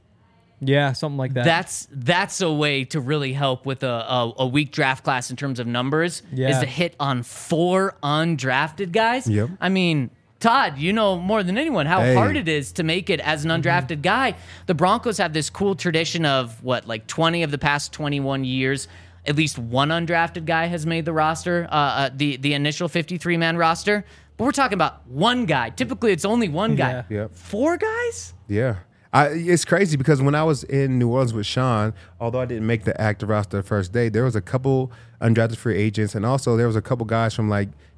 Yeah, something like that. That's that's a way to really help with a, a, a weak draft class in terms of numbers. Is Yeah. to hit on four undrafted guys. Yep. I mean, Todd, you know more than anyone how Hey. hard it is to make it as an undrafted guy. The Broncos have this cool tradition of what, like twenty of the past twenty-one years, at least one undrafted guy has made the roster, uh, uh, the the initial fifty-three man roster. But we're talking about one guy. Typically, it's only one guy. Yeah. Yep. Four guys? Yeah. I, it's crazy because when I was in New Orleans with Sean, although I didn't make the active roster the first day, there was a couple undrafted free agents, and also there was a couple guys from like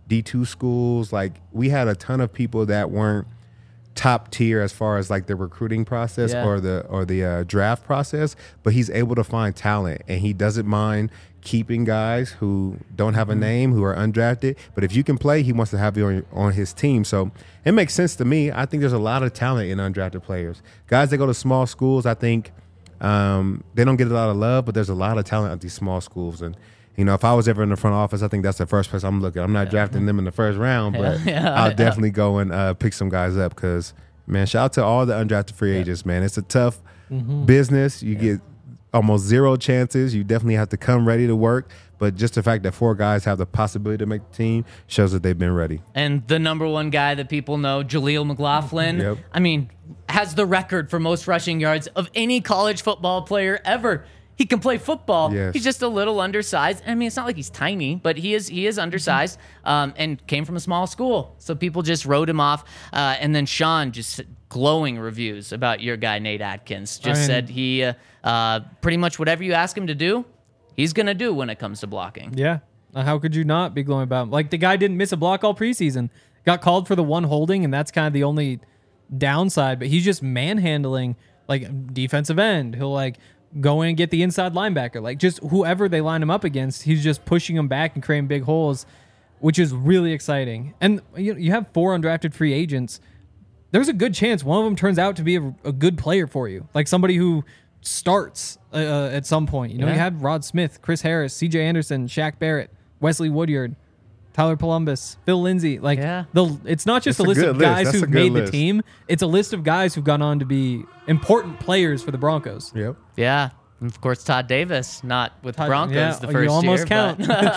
D two schools. Like we had a ton of people that weren't top tier as far as like the recruiting process Yeah. or the or the uh, draft process, but he's able to find talent, and he doesn't mind keeping guys who don't have a name, who are undrafted. But if you can play, he wants to have you on, on his team. So it makes sense to me. I think there's a lot of talent in undrafted players. Guys that go to small schools, I think um, they don't get a lot of love, but there's a lot of talent at these small schools. And you know, if I was ever in the front office, I think that's the first place I'm looking. I'm not drafting them in the first round, but Yeah, yeah, I'll yeah. definitely go and uh, pick some guys up because, man, shout out to all the undrafted free agents, man. It's a tough Mm-hmm. business. You get almost zero chances. You definitely have to come ready to work. But just the fact that four guys have the possibility to make the team shows that they've been ready. And the number one guy that people know, Jaleel McLaughlin, Yep. I mean, has the record for most rushing yards of any college football player ever. He can play football. Yes. He's just a little undersized. I mean, it's not like he's tiny, but he is he is undersized um, and came from a small school. So people just wrote him off. Uh, and then Sean just glowing reviews about your guy, Nate Atkins. Just I mean- said he uh, uh, pretty much whatever you ask him to do, he's going to do when it comes to blocking. Yeah. Uh, How could you not be glowing about him? Like, the guy didn't miss a block all preseason. Got called for the one holding, and that's kind of the only downside. But he's just manhandling, like, defensive end. He'll, like, go in and get the inside linebacker. Like, just whoever they line him up against, he's just pushing them back and creating big holes, which is really exciting. And you, you have four undrafted free agents. There's a good chance one of them turns out to be a, a good player for you. Like, somebody who starts uh, uh, at some point. You know, Yeah. you had Rod Smith, Chris Harris, C J Anderson, Shaq Barrett, Wesley Woodyard, Tyler Columbus, Phil Lindsay. Like, Yeah. the it's not just That's a a list good of list. guys That's a who've good made the list. team. It's a list of guys who've gone on to be important players for the Broncos. Yep. Yeah. And of course, Todd Davis, not with the Todd- Broncos yeah, the you first almost year. count.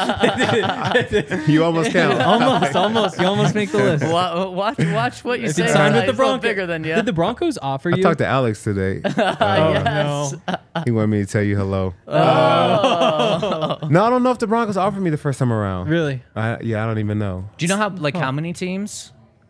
but- You almost count. almost, almost. You almost make the list. Wa- watch, watch what you If say. you signed with He's the a little Broncos, bigger than you. Did the Broncos offer I you? talked to Alex today. Uh, yes. He wanted me to tell you hello. Oh. No, I don't know if the Broncos offered me the first time around. Really? I, yeah, I don't even know. Do you know how like how many teams?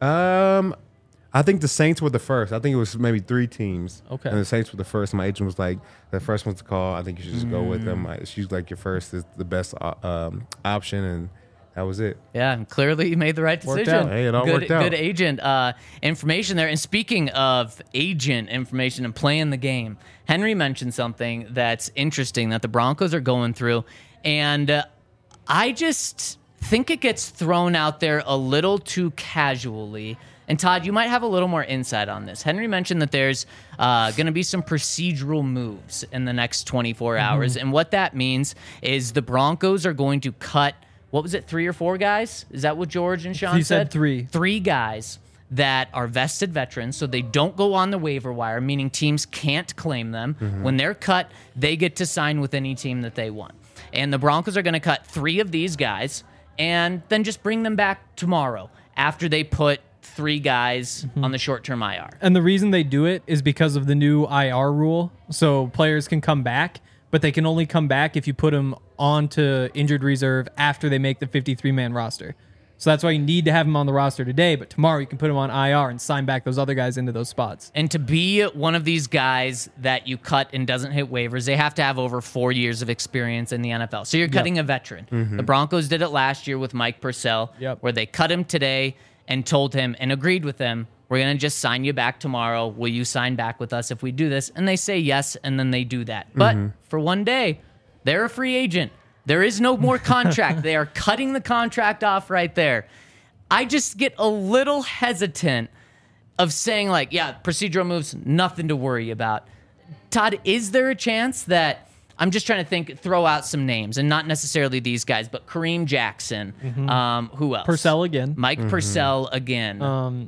Um, I think the Saints were the first. I think it was maybe three teams. Okay. And the Saints were the first. My agent was like, the first one to call. I think you should just go with them. I- She's like, your first is the best uh, um, option, and that was it. Yeah, and clearly you made the right Worked decision. out. Hey, it all good, worked out. Good agent uh, information there. And speaking of agent information and playing the game, Henry mentioned something that's interesting that the Broncos are going through, and uh, I just think it gets thrown out there a little too casually. And Todd, you might have a little more insight on this. Henry mentioned that there's uh, going to be some procedural moves in the next twenty-four hours. And what that means is the Broncos are going to cut, what was it, three or four guys? Is that what George and Sean He said three. Three guys that are vested veterans, so they don't go on the waiver wire, meaning teams can't claim them. When they're cut, they get to sign with any team that they want. And the Broncos are going to cut three of these guys and then just bring them back tomorrow after they put three guys on the short-term I R. And the reason they do it is because of the new I R rule. So players can come back, but they can only come back if you put them onto injured reserve after they make the fifty-three man roster. So that's why you need to have them on the roster today, but tomorrow you can put them on I R and sign back those other guys into those spots. And to be one of these guys that you cut and doesn't hit waivers, they have to have over four years of experience in the N F L. So you're cutting a veteran. The Broncos did it last year with Mike Purcell, Yep. where they cut him today and told him and agreed with him, we're going to just sign you back tomorrow. Will you sign back with us if we do this? And they say yes, and then they do that. But for one day, they're a free agent. There is no more contract. They are cutting the contract off right there. I just get a little hesitant of saying, like, yeah, procedural moves, nothing to worry about. Todd, is there a chance that, I'm just trying to think, throw out some names, and not necessarily these guys, but Kareem Jackson, um, who else? Purcell again. Mike Purcell again. Um,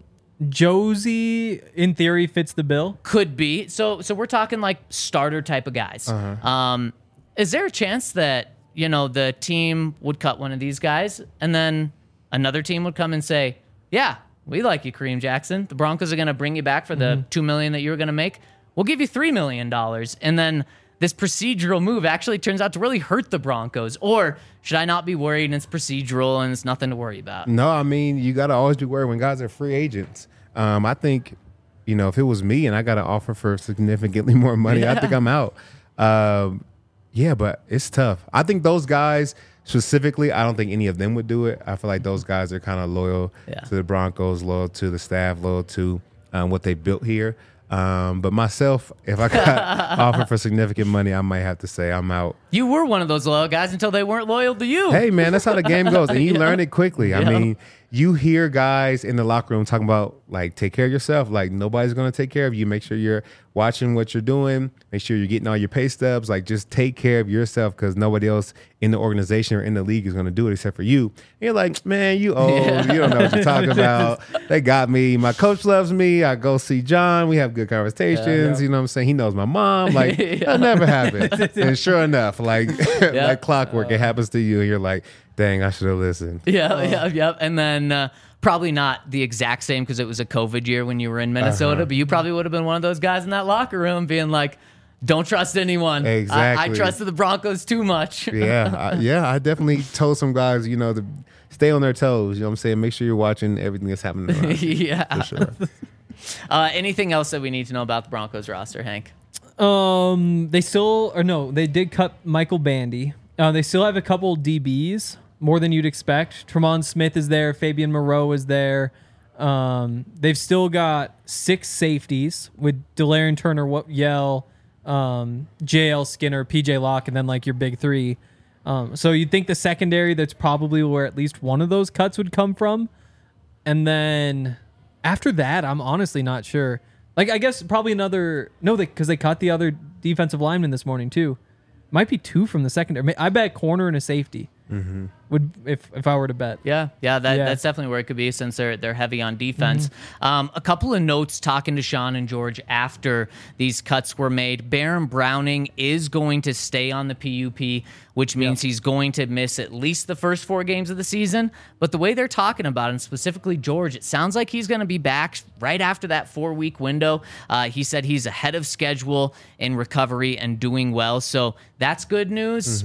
Josie, in theory, fits the bill. Could be. So so we're talking like starter type of guys. Um, is there a chance that, you know, the team would cut one of these guys and then another team would come and say, yeah, we like you, Kareem Jackson. The Broncos are going to bring you back for the two million dollars that you were going to make. We'll give you three million dollars. And then this procedural move actually turns out to really hurt the Broncos. Or should I not be worried and it's procedural and it's nothing to worry about? No, I mean, you got to always be worried when guys are free agents. Um, I think, you know, if it was me and I got an offer for significantly more money, I think I'm out. Um, yeah, but it's tough. I think those guys, specifically, I don't think any of them would do it. I feel like those guys are kind of loyal Yeah. to the Broncos, loyal to the staff, loyal to um, what they built here. Um, but myself, if I got offered for significant money, I might have to say I'm out. You were one of those loyal guys until they weren't loyal to you. Hey, man, that's how the game goes. And you Yeah. learn it quickly. I Yeah. mean, you hear guys in the locker room talking about, like, take care of yourself. Like, nobody's going to take care of you. Make sure you're watching what you're doing. Make sure you're getting all your pay stubs. Like, just take care of yourself because nobody else in the organization or in the league is going to do it except for you. And you're like, man, you old. Yeah. You don't know what you're talking about. They got me. My coach loves me. I go see John. We have good conversations. Yeah, yeah. You know what I'm saying? He knows my mom. Like, Yeah. that never happened. And sure enough, like, Yeah. like clockwork, it happens to you. And you're like, dang, I should have listened. Yeah, yeah, yeah. And then uh, probably not the exact same because it was a COVID year when you were in Minnesota, Uh-huh. but you probably would have been one of those guys in that locker room being like, don't trust anyone. I, I Exactly. trusted the Broncos too much. yeah, I, yeah. I definitely told some guys, you know, to stay on their toes. You know what I'm saying? Make sure you're watching everything that's happening around you, yeah. for sure. Uh, anything else that we need to know about the Broncos roster, Hank? Um, they still or no, they did cut Michael Bandy. Uh, they still have a couple D Bs, more than you'd expect. Tremont Smith is there. Fabian Moreau is there. Um, they've still got six safeties with Delarian Turner, Wa- Yell, um, J L Skinner, P J Locke, and then like your big three. Um, so you'd think the secondary, that's probably where at least one of those cuts would come from. And then after that, I'm honestly not sure. Like, I guess probably another, no, because they, they cut the other defensive lineman this morning too. Might be two from the secondary. I bet corner and a safety Mm-hmm. would if if I were to bet. Yeah, yeah, that, Yeah. that's definitely where it could be since they're they're heavy on defense. Um, a couple of notes talking to Sean and George after these cuts were made. Baron Browning is going to stay on the P U P, which means he's going to miss at least the first four games of the season. But the way they're talking about it, and specifically George, it sounds like he's going to be back right after that four-week window. Uh, he said he's ahead of schedule in recovery and doing well, so that's good news.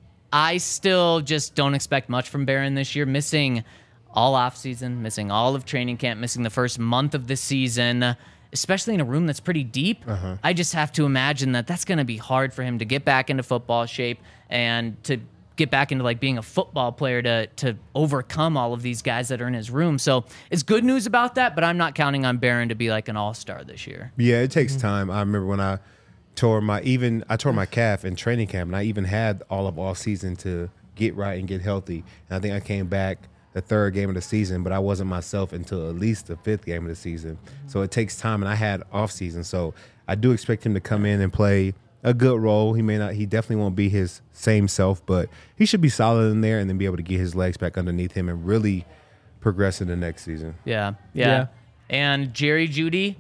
I still just don't expect much from Barron this year, missing all offseason, missing all of training camp, missing the first month of the season, especially in a room that's pretty deep. Uh-huh. I just have to imagine that that's going to be hard for him to get back into football shape and to get back into like being a football player to to overcome all of these guys that are in his room. So it's good news about that, but I'm not counting on Barron to be like an all-star this year. Yeah, it takes time. I remember when I tore my even I tore my calf in training camp, and I even had all of off season to get right and get healthy. And I think I came back the third game of the season, but I wasn't myself until at least the fifth game of the season. So it takes time, and I had off season. So I do expect him to come in and play a good role. He may not, he definitely won't be his same self, but he should be solid in there and then be able to get his legs back underneath him and really progress in the next season. Yeah, yeah. Yeah. And Jerry Jeudy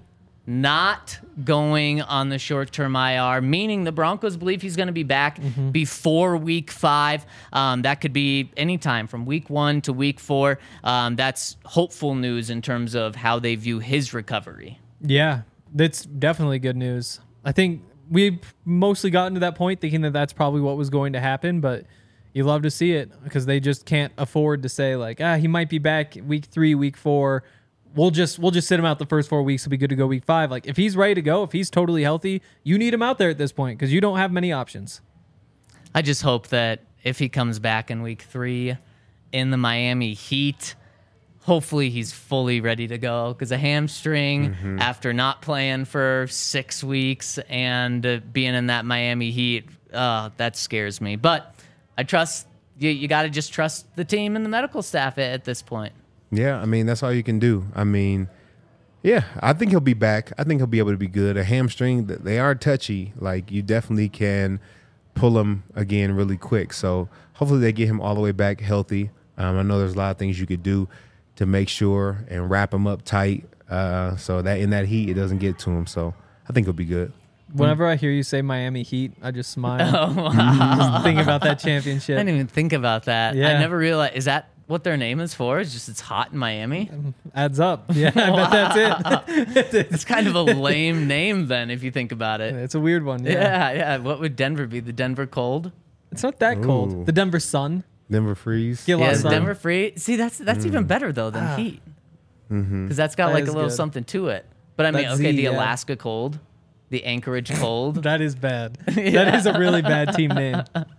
not going on the short-term I R, meaning the Broncos believe he's going to be back before week five. Um, that could be anytime from week one to week four. Um, that's hopeful news in terms of how they view his recovery. Yeah, that's definitely good news. I think we've mostly gotten to that point thinking that that's probably what was going to happen, but you love to see it because they just can't afford to say like, ah, he might be back week three, week four. We'll just we'll just sit him out the first four weeks. He'll be good to go week five. Like if he's ready to go, if he's totally healthy, you need him out there at this point because you don't have many options. I just hope that if he comes back in week three in the Miami Heat, hopefully he's fully ready to go because a hamstring after not playing for six weeks and uh, being in that Miami Heat, uh, that scares me. But I trust you. You got to just trust the team and the medical staff at, at this point. Yeah, I mean, that's all you can do. I mean, yeah, I think he'll be back. I think he'll be able to be good. A hamstring, th- they are touchy. Like, you definitely can pull them again really quick. So hopefully they get him all the way back healthy. Um, I know there's a lot of things you could do to make sure and wrap him up tight uh, so that in that heat it doesn't get to him. So I think he'll be good. Whenever I hear you say Miami Heat, I just smile. Oh, wow. Just thinking about that I championship. didn't even think about that. I Yeah. never realized. Is that what their name is for? It's just it's hot in Miami? Adds up. Yeah, I bet that's it. It's kind of a lame name then if you think about it. It's a weird one. Yeah. Yeah, yeah. What would Denver be? The Denver Cold? It's not that Ooh. cold. The Denver Sun. Denver Freeze. Get a lot Yeah, of is sun. Denver free. See, that's that's even better though than Ah. Heat Mm-hmm. because that's got That like is a little good. something to it. But I mean, That okay, Z, the yeah. Alaska Cold. The Anchorage Cold. That is bad. That is a really bad team name.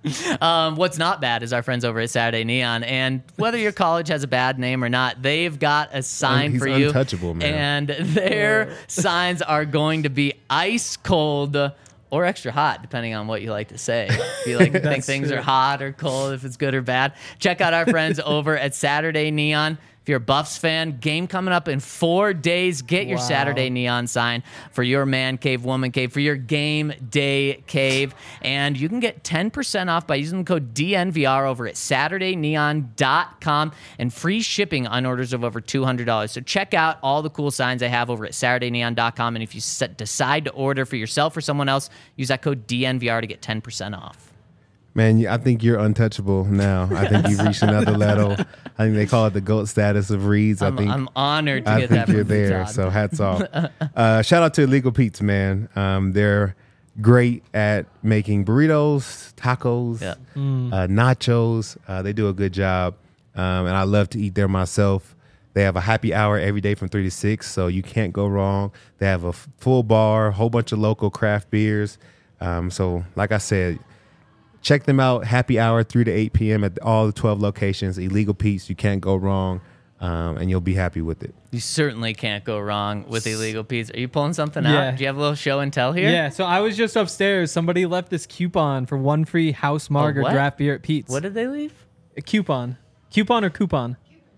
Um, what's not bad is our friends over at Saturday Neon, and whether your college has a bad name or not, they've got a sign He's for you. untouchable, man. And their signs are going to be ice cold or extra hot, depending on what you like to say. If you like to think things true. are hot or cold, if it's good or bad, check out our friends over at Saturday Neon. If you're a Buffs fan, game coming up in four days. Get your Wow. Saturday Neon sign for your man cave, woman cave, for your game day cave. And you can get ten percent off by using the code D N V R over at Saturday Neon dot com and free shipping on orders of over two hundred dollars. So check out all the cool signs I have over at Saturday Neon dot com. And if you set, decide to order for yourself or someone else, use that code D N V R to get ten percent off. Man, I think you're untouchable now. I think you've reached another level. I think they call it the GOAT status of Reeds. I I'm, think I'm honored to I get think that you're from you, there. Todd. So hats off. uh, shout out to Illegal Pete's, man. Um, they're great at making burritos, tacos, Yeah. uh, nachos. Uh, they do a good job, um, and I love to eat there myself. They have a happy hour every day from three to six, so you can't go wrong. They have a f- full bar, a whole bunch of local craft beers. Um, so, like I said, check them out. Happy hour, three to eight p.m. at all the twelve locations. Illegal Pete's, you can't go wrong, um, and you'll be happy with it. You certainly can't go wrong with Illegal Pete's. Are you pulling something Yeah. out? Do you have a little show and tell here? Yeah, so I was just upstairs. Somebody left this coupon for one free house marg or what? draft beer at Pete's. What did they leave? A coupon. Coupon or coupon?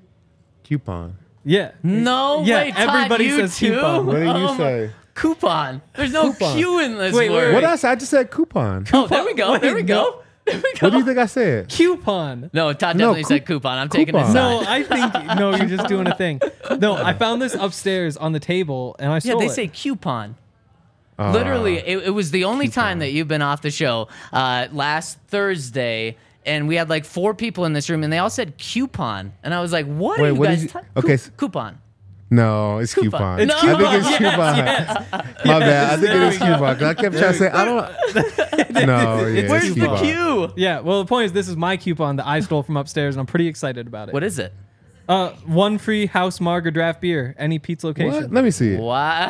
Coupon. Yeah. No Yeah, way, Todd, everybody you says too? coupon. What did you Oh my- say? Coupon. There's no Coupon. Q in this Wait, wait, word. wait. What did I say? I just said coupon. Oh, there we go. Wait, there we no. go. There we go. What do you think I said? Coupon. No, Todd No, definitely coup- said coupon. I'm taking his coupon. side. No, I think no, you're just doing a thing. No, I found this upstairs on the table and I Yeah, stole they it. say coupon. Uh, Literally, it, it was the only time that you've been off the show uh, last Thursday, and we had like four people in this room, and they all said coupon, and I was like, "What Wait, are you what did guys?" you- ta- okay, coup- s- coupon. No, it's Coupon. coupon. It's I think coupon. it's Yes, coupon. yes. My bad. I think there it is we go. coupon. 'Cause I kept trying to say I don't. No, yeah, Where's it's the coupon. Q? Yeah, well, the point is, this is my coupon that I stole from upstairs, and I'm pretty excited about it. What is it? Uh, one free house marg or draft beer, any Pete's What? location. Let me see it. Wow.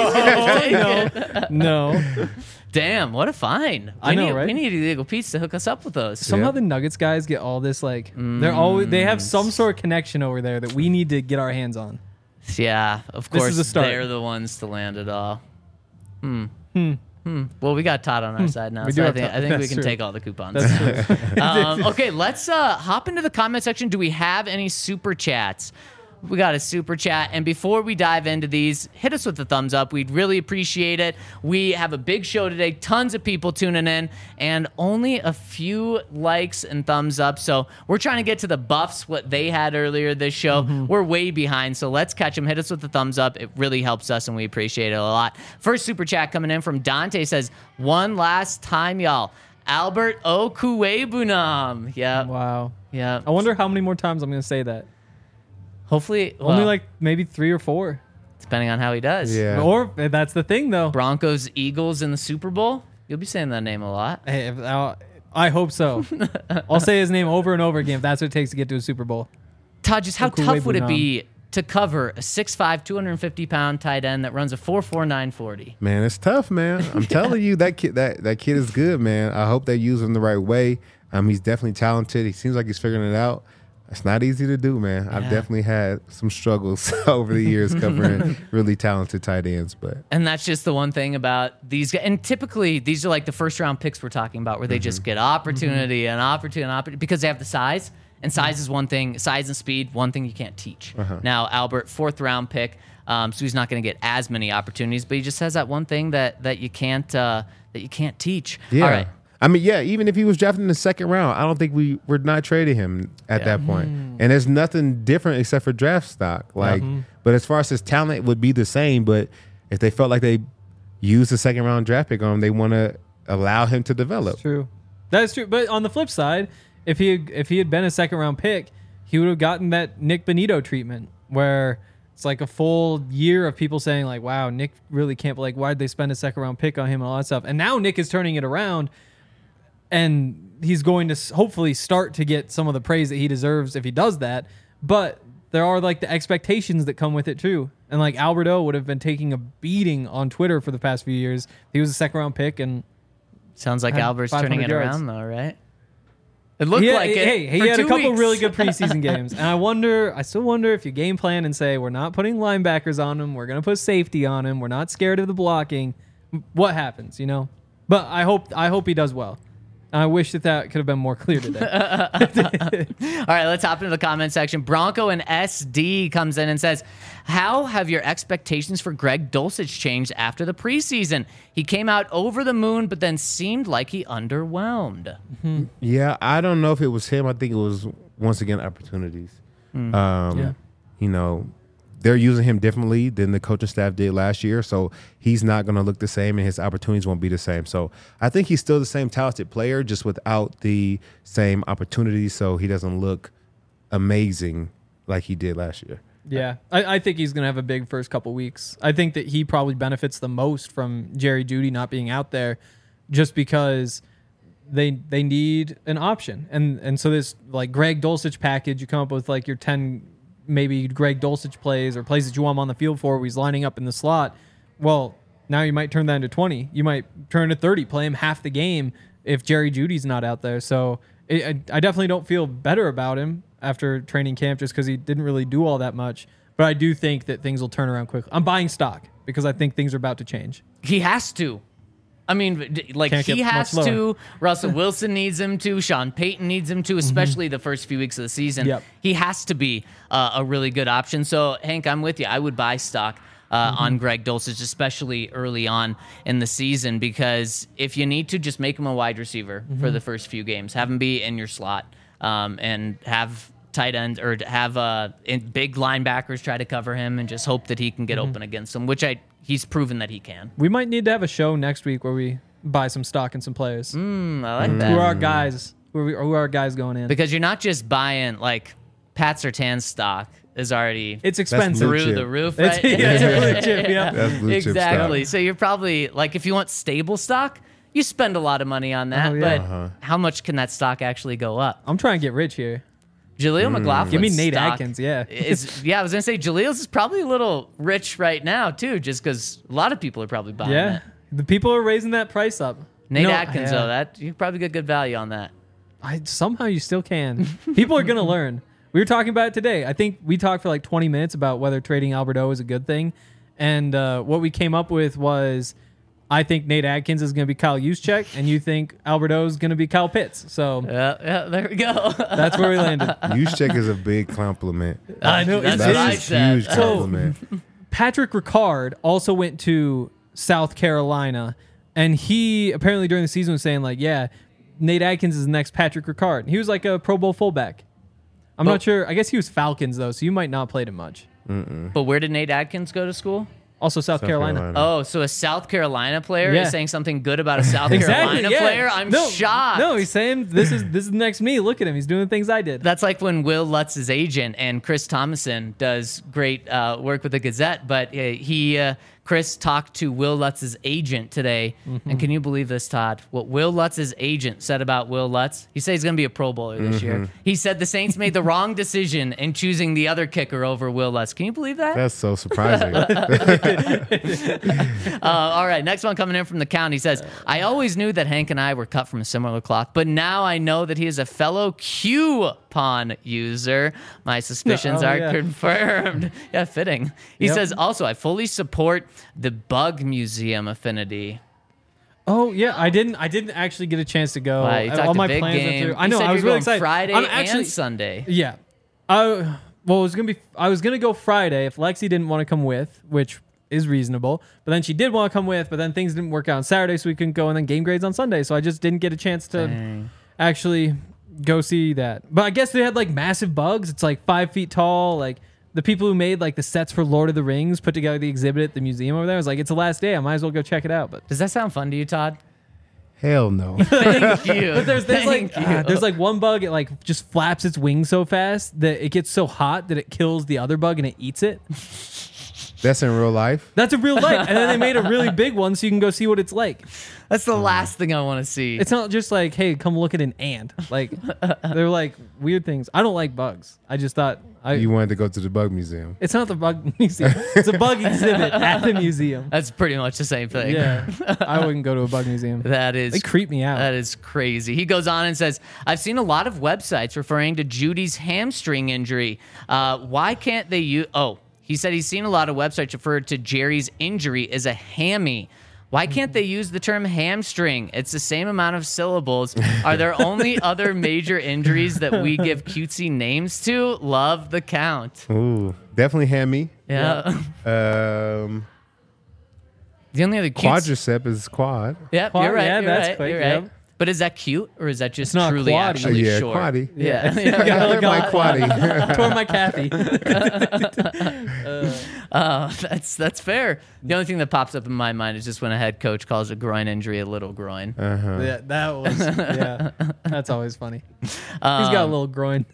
no, no. Damn, what a find. I We know, need, right? We need Illegal Pete's to hook us up with those. Somehow Yeah. the Nuggets guys get all this like they're always they have some sort of connection over there that we need to get our hands on. Yeah, of This course, is a start. they're the ones to land it all. Hmm. Hmm. Hmm. Well, we got Todd on our side now, We so do I have think, Todd. I think we That's can true. take all the coupons. That's true. um, okay, let's uh, hop into the comment section. Do we have any super chats? We got a super chat. And before we dive into these, hit us with a thumbs up. We'd really appreciate it. We have a big show today, tons of people tuning in, and only a few likes and thumbs up. So we're trying to get to the Buffs, what they had earlier this show. We're way behind, so let's catch them. Hit us with the thumbs up. It really helps us, and we appreciate it a lot. First super chat coming in from Dante says, one last time, y'all. Albert Okuwebunam. Yeah, Wow. yeah. I wonder how many more times I'm gonna say that. Hopefully, Only well, like maybe three or four. depending on how he does. Yeah. Or eh, that's the thing though. Broncos, Eagles in the Super Bowl. You'll be saying that name a lot. Hey, if- I I hope so. I'll say his name over and over again if that's what it takes to get to a Super Bowl. Todd, just how tough would it Okuwebunam. be to cover a six five, two hundred fifty pound tight end that runs a four four nine forty? Man, it's tough, man. I'm telling you, that kid, that that kid is good, man. I hope they use him the right way. Um, he's definitely talented. He seems like he's figuring it out. It's not easy to do, man. I've Yeah. definitely had some struggles over the years covering really talented tight ends, but And that's just the one thing about these guys. And typically, these are like the first round picks we're talking about where they just get opportunity and opportunity and opportunity because they have the size. And size is one thing, size and speed, one thing you can't teach. Now, Albert, fourth round pick, um, so he's not going to get as many opportunities, but he just has that one thing that that you can't uh, that you can't teach. yeah. All right. I mean, yeah, even if he was drafted in the second round, I don't think we we're not trading him at Yeah. that point. And there's nothing different except for draft stock. Like, but as far as his talent, it would be the same. But if they felt like they used the second round draft pick on him, they want to allow him to develop. That's true. That's true. But on the flip side, if he if he had been a second round pick, he would have gotten that Nick Benito treatment where it's like a full year of people saying like, "Wow, Nick really can't." Like, why'd they spend a second round pick on him and all that stuff? And now Nick is turning it around, and he's going to s- hopefully start to get some of the praise that he deserves if he does that. But there are like the expectations that come with it too, And like Alberto would have been taking a beating on Twitter for the past few years. He was a second round pick, and Sounds like had Albert's five turning it hundred yards. around, though, right? It looked he had, like it. Hey, he for had a two couple weeks. really good preseason games, and I wonder, I still wonder if you game plan and say we're not putting linebackers on him, we're gonna put safety on him, we're not scared of the blocking. What happens, you know? But I hope, I hope he does well. And I wish that that could have been more clear today. All right, let's hop into the comment section. Bronco and S D comes in and says, how have your expectations for Greg Dulcich changed after the preseason? He came out over the moon, but then seemed like he underwhelmed. Yeah, I don't know if it was him. I think it was, once again, opportunities. Mm. Um, Yeah. You know, they're using him differently than the coaching staff did last year, so he's not going to look the same, and his opportunities won't be the same. So I think he's still the same talented player, just without the same opportunities, so he doesn't look amazing like he did last year. Yeah, I, I think he's going to have a big first couple weeks. I think that he probably benefits the most from Jerry Jeudy not being out there, just because they they need an option. And and so this like Greg Dulcich package, you come up with like your ten maybe Greg Dulcich plays or plays that you want him on the field for where he's lining up in the slot. Well, now you might turn that into twenty. You might turn to thirty, play him half the game if Jerry Judy's not out there. So it, I, I definitely don't feel better about him after training camp just because he didn't really do all that much. But I do think that things will turn around quickly. I'm buying stock because I think things are about to change. He has to. I mean, d- like Can't he get much has lower. to. Russell Wilson needs him to. Sean Payton needs him to, especially the first few weeks of the season. Yep. He has to be uh, a really good option. So, Hank, I'm with you. I would buy stock uh, on Greg Dulcich, especially early on in the season, because if you need to, just make him a wide receiver for the first few games. Have him be in your slot um, and have tight ends or have uh, in big linebackers try to cover him and just hope that he can get open against them, which I he's proven that he can. We might need to have a show next week where we buy some stock and some players. Mm, I like Who that. are our guys? Who are, we, who are our guys going in? Because you're not just buying, like, Pat Surtain's stock is already It's expensive. blue through chip. the roof, It's- right? yeah, it's blue chip, yeah. That's blue chip exactly. stock. So you're probably, like, if you want stable stock, you spend a lot of money on that, Oh, yeah. but Uh-huh. how much can that stock actually go up? I'm trying to get rich here. Jaleel McLaughlin. Give me Nate Atkins, yeah. is, yeah, I was going to say, Jaleel's is probably a little rich right now, too, just because a lot of people are probably buying Yeah. it. The people are raising that price up. Nate No, Atkins, yeah. though, that you probably get good value on that. I somehow you still can. People are gonna learn. We were talking about it today. I think we talked for like twenty minutes about whether trading Alberto is a good thing, and uh, what we came up with was, I think Nate Atkins is gonna be Kyle Juszczyk, and you think Alberto is gonna be Kyle Pitts. So Yeah, yeah, there we go. that's where we landed. Juszczyk is a big compliment. I know, That's it what is. I That's a said. huge So- compliment. Patrick Ricard also went to South Carolina, and he apparently during the season was saying like, yeah, Nate Atkins is the next Patrick Ricard. He was like a Pro Bowl fullback. I'm Well- not sure. I guess he was Falcons though, so you might not played him much. But where did Nate Atkins go to school? Also South, South Carolina. Carolina. Oh, so a South Carolina player Yeah. is saying something good about a South Exactly. Carolina Yeah. player? I'm no, shocked. No, he's saying this is this is the next me. Look at him. He's doing the things I did. That's like when Will Lutz's agent and Chris Thomason does great uh, work with the Gazette, but uh, he uh, Chris talked to Will Lutz's agent today, Mm-hmm. and can you believe this, Todd? What Will Lutz's agent said about Will Lutz? He said he's going to be a Pro Bowler this Mm-hmm. year. He said the Saints made the wrong decision in choosing the other kicker over Will Lutz. Can you believe that? That's so surprising. Uh, all right, next one coming in from the count. He says, I always knew that Hank and I were cut from a similar cloth, but now I know that he is a fellow coupon user. My suspicions Oh, are yeah. confirmed. Yeah, fitting. He Yep. says, also, I fully support the Bug Museum affinity. Oh yeah, I didn't. I didn't actually get a chance to go. Wow, you I- talked All a my big plans went game. through. I You know. said I was you're really going excited. Friday I'm actually, and Sunday. Yeah. I well, it was gonna be. I was gonna go Friday if Lexi didn't want to come with, which is reasonable. But then she did want to come with, but then things didn't work out on Saturday, so we couldn't go. And then game grades on Sunday, so I just didn't get a chance to Dang. actually go see that. But I guess they had like massive bugs. It's like five feet tall. Like the people who made like the sets for Lord of the Rings put together the exhibit at the museum over there. I was like, it's the last day. I might as well go check it out. But Does that sound fun to you, Todd? Hell no. Thank you. But there's, there's like Thank you. ah, there's like one bug. It like just flaps its wings so fast that it gets so hot that it kills the other bug and it eats it. That's in real life. That's a real life. And then they made a really big one so you can go see what it's like. That's the last thing I want to see. It's not just like, hey, come look at an ant. Like, they're like weird things. I don't like bugs. I just thought I. You wanted to go to the bug museum. It's not the bug museum. It's a bug exhibit at the museum. That's pretty much the same thing. Yeah, I wouldn't go to a bug museum. That is They creep me out. That is crazy. He goes on and says, I've seen a lot of websites referring to Judy's hamstring injury. Uh, why can't they use... Oh, he said he's seen a lot of websites refer to Jerry's injury as a hammy. Why can't they use the term hamstring? It's the same amount of syllables. Are there only other major injuries that we give cutesy names to? Love the count. Ooh, definitely hammy. Yeah. Um, The only other cute... quadricep is quad. Yep, Quad- you're right. yeah, you're that's right, quick, you're right. yep. But is that cute, or is that just It's not truly quaddy. actually yeah, short? quaddy. Yeah. Yeah. I hurt my Got- quaddy. Tore my Kathy. Uh, that's that's fair. The only thing that pops up in my mind is just when a head coach calls a groin injury a little groin. Uh-huh. Yeah, that was, yeah. That's always funny. He's Um, got a little groin.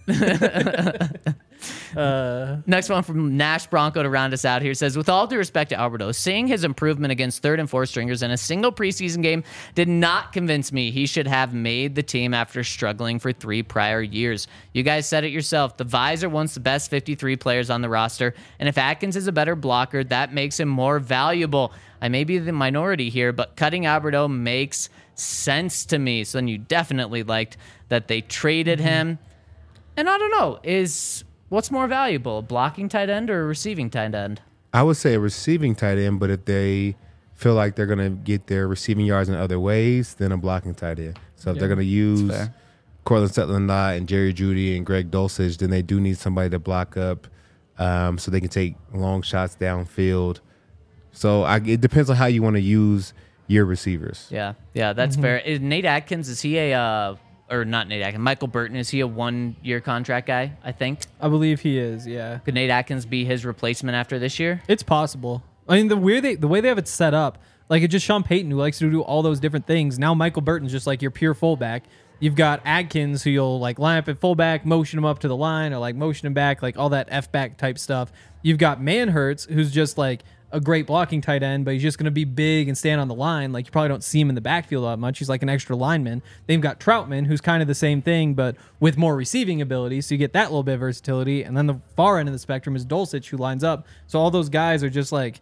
uh, Next one from Nash Bronco to round us out here says, with all due respect to Alberto, seeing his improvement against third and fourth stringers in a single preseason game did not convince me he should have made the team after struggling for three prior years. You guys said it yourself. The Vise are once the best fifty-three players on the roster, and if Atkins is a better blocker, that makes him more valuable. I may be the minority here, but cutting Alberto makes sense to me. So then you definitely liked that they traded him. And I don't know, is... what's more valuable, a blocking tight end or a receiving tight end? I would say a receiving tight end, but if they feel like they're going to get their receiving yards in other ways, then a blocking tight end. So if Yeah, they're going to use fair. Cortland Sutton-Lott and Jerry Jeudy and Greg Dulcich, then they do need somebody to block up um, so they can take long shots downfield. So I, it depends on how you want to use your receivers. Yeah, yeah, that's fair. Is Nate Atkins, is he a, uh, or not Nate Atkins, Michael Burton, is he a one-year contract guy, I think? I believe he is, yeah. Could Nate Atkins be his replacement after this year? It's possible. I mean, the weird they, the way they have it set up, like it's just Sean Payton who likes to do all those different things. Now Michael Burton's just like your pure fullback. You've got Adkins who you'll like line up at fullback, motion him up to the line, or like motion him back, like all that F back type stuff. You've got Manhurts who's just like a great blocking tight end, but he's just going to be big and stand on the line. Like you probably don't see him in the backfield that much. He's like an extra lineman. They've got Troutman, who's kind of the same thing, but with more receiving ability. So you get that little bit of versatility. And then the far end of the spectrum is Dulcich, who lines up. So all those guys are just like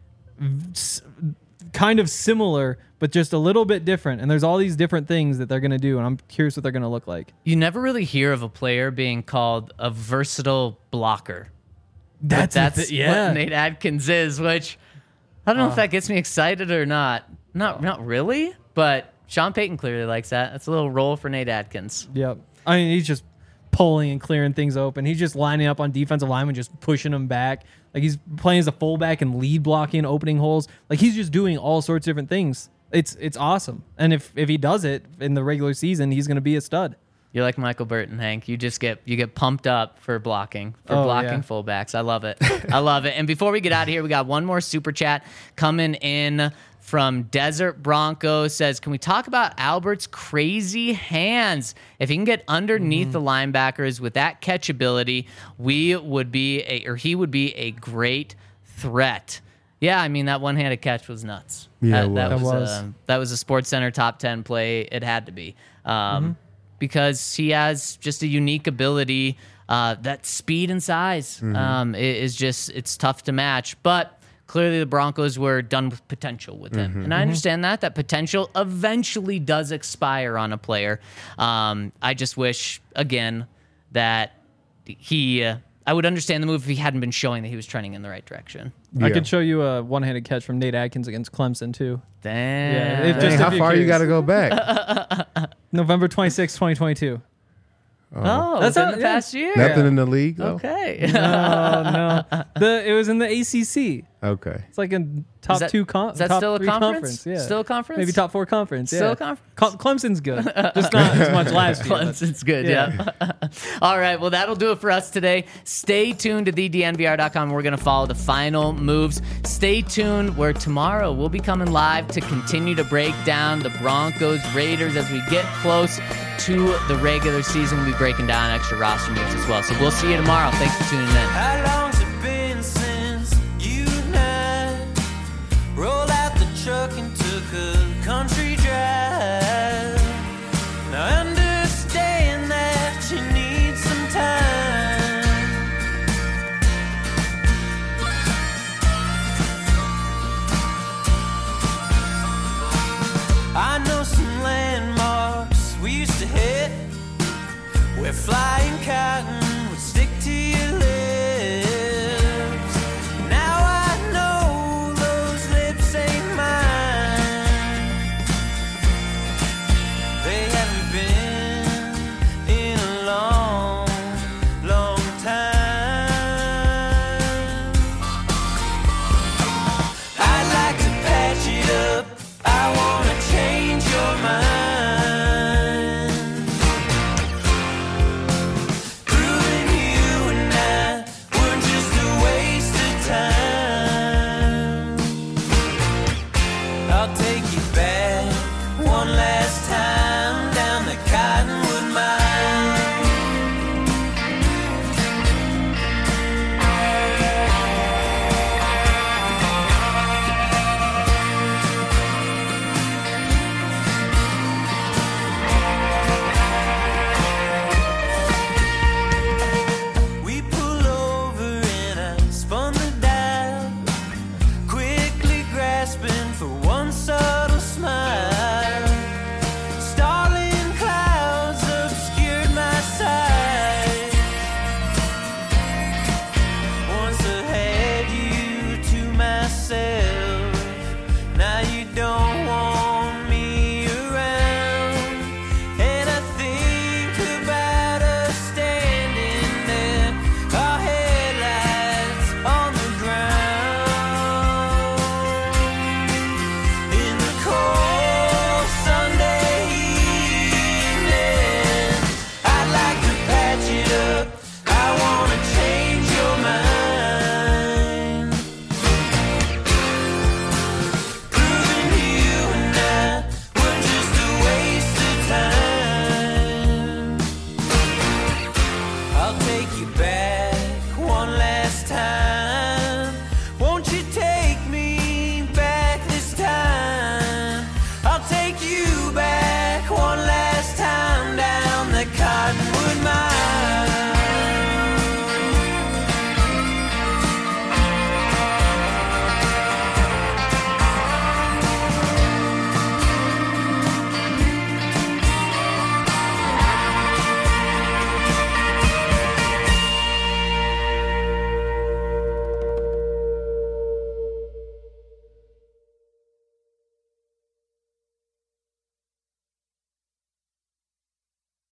s- kind of similar, but just a little bit different. And there's all these different things that they're going to do. And I'm curious what they're going to look like. You never really hear of a player being called a versatile blocker. But That's, the that's thi- yeah. what Nate Atkins is, which I don't know Uh. if that gets me excited or not. Not not really, but Sean Payton clearly likes that. That's a little role for Nate Atkins. Yep. I mean, he's just pulling and clearing things open. He's just lining up on defensive linemen, just pushing them back. Like he's playing as a fullback and lead blocking, opening holes. Like he's just doing all sorts of different things. It's it's awesome. And if if he does it in the regular season, he's going to be a stud. You're like Michael Burton, Hank. You just get you get pumped up for blocking, for Oh, blocking yeah. fullbacks. I love it. I love it. And before we get out of here, we got one more super chat coming in from Desert Bronco. Says, can we talk about Albert's crazy hands? If he can get underneath the linebackers with that catch ability, we would be a or he would be a great threat. Yeah, I mean that one-handed catch was nuts. Yeah, that, it that was. was It was. uh, that was a Sports Center top ten play. It had to be. Um, because he has just a unique ability. Uh, that speed and size um, i- is just, it's tough to match. But clearly the Broncos were done with potential with him. And I understand that, that potential eventually does expire on a player. Um, I just wish, again, that he, uh, I would understand the move if he hadn't been showing that he was trending in the right direction. I Yeah. could show you a one-handed catch from Nate Atkins against Clemson too. Damn. it Dang, just- how if you're far you curious. got to go back? November twenty-sixth, twenty twenty-two. oh, That's that's in not- the yeah. past year. Nothing in the league, though? Okay. No, no. The it was in the A C C. Okay. It's like a top that- two con- Is that top still a three conference? Yeah. Still a conference? Maybe top four conference. Still yeah. a conference? Cle- Clemson's good, just not as much last year. but- Clemson's good, Yeah. yeah. All right, well, that'll do it for us today. Stay tuned to the D N V R dot com. We're going to follow the final moves. Stay tuned where tomorrow we'll be coming live to continue to break down the Broncos Raiders as we get close to the regular season. We'll be breaking down extra roster moves as well. So we'll see you tomorrow. Thanks for tuning in. How long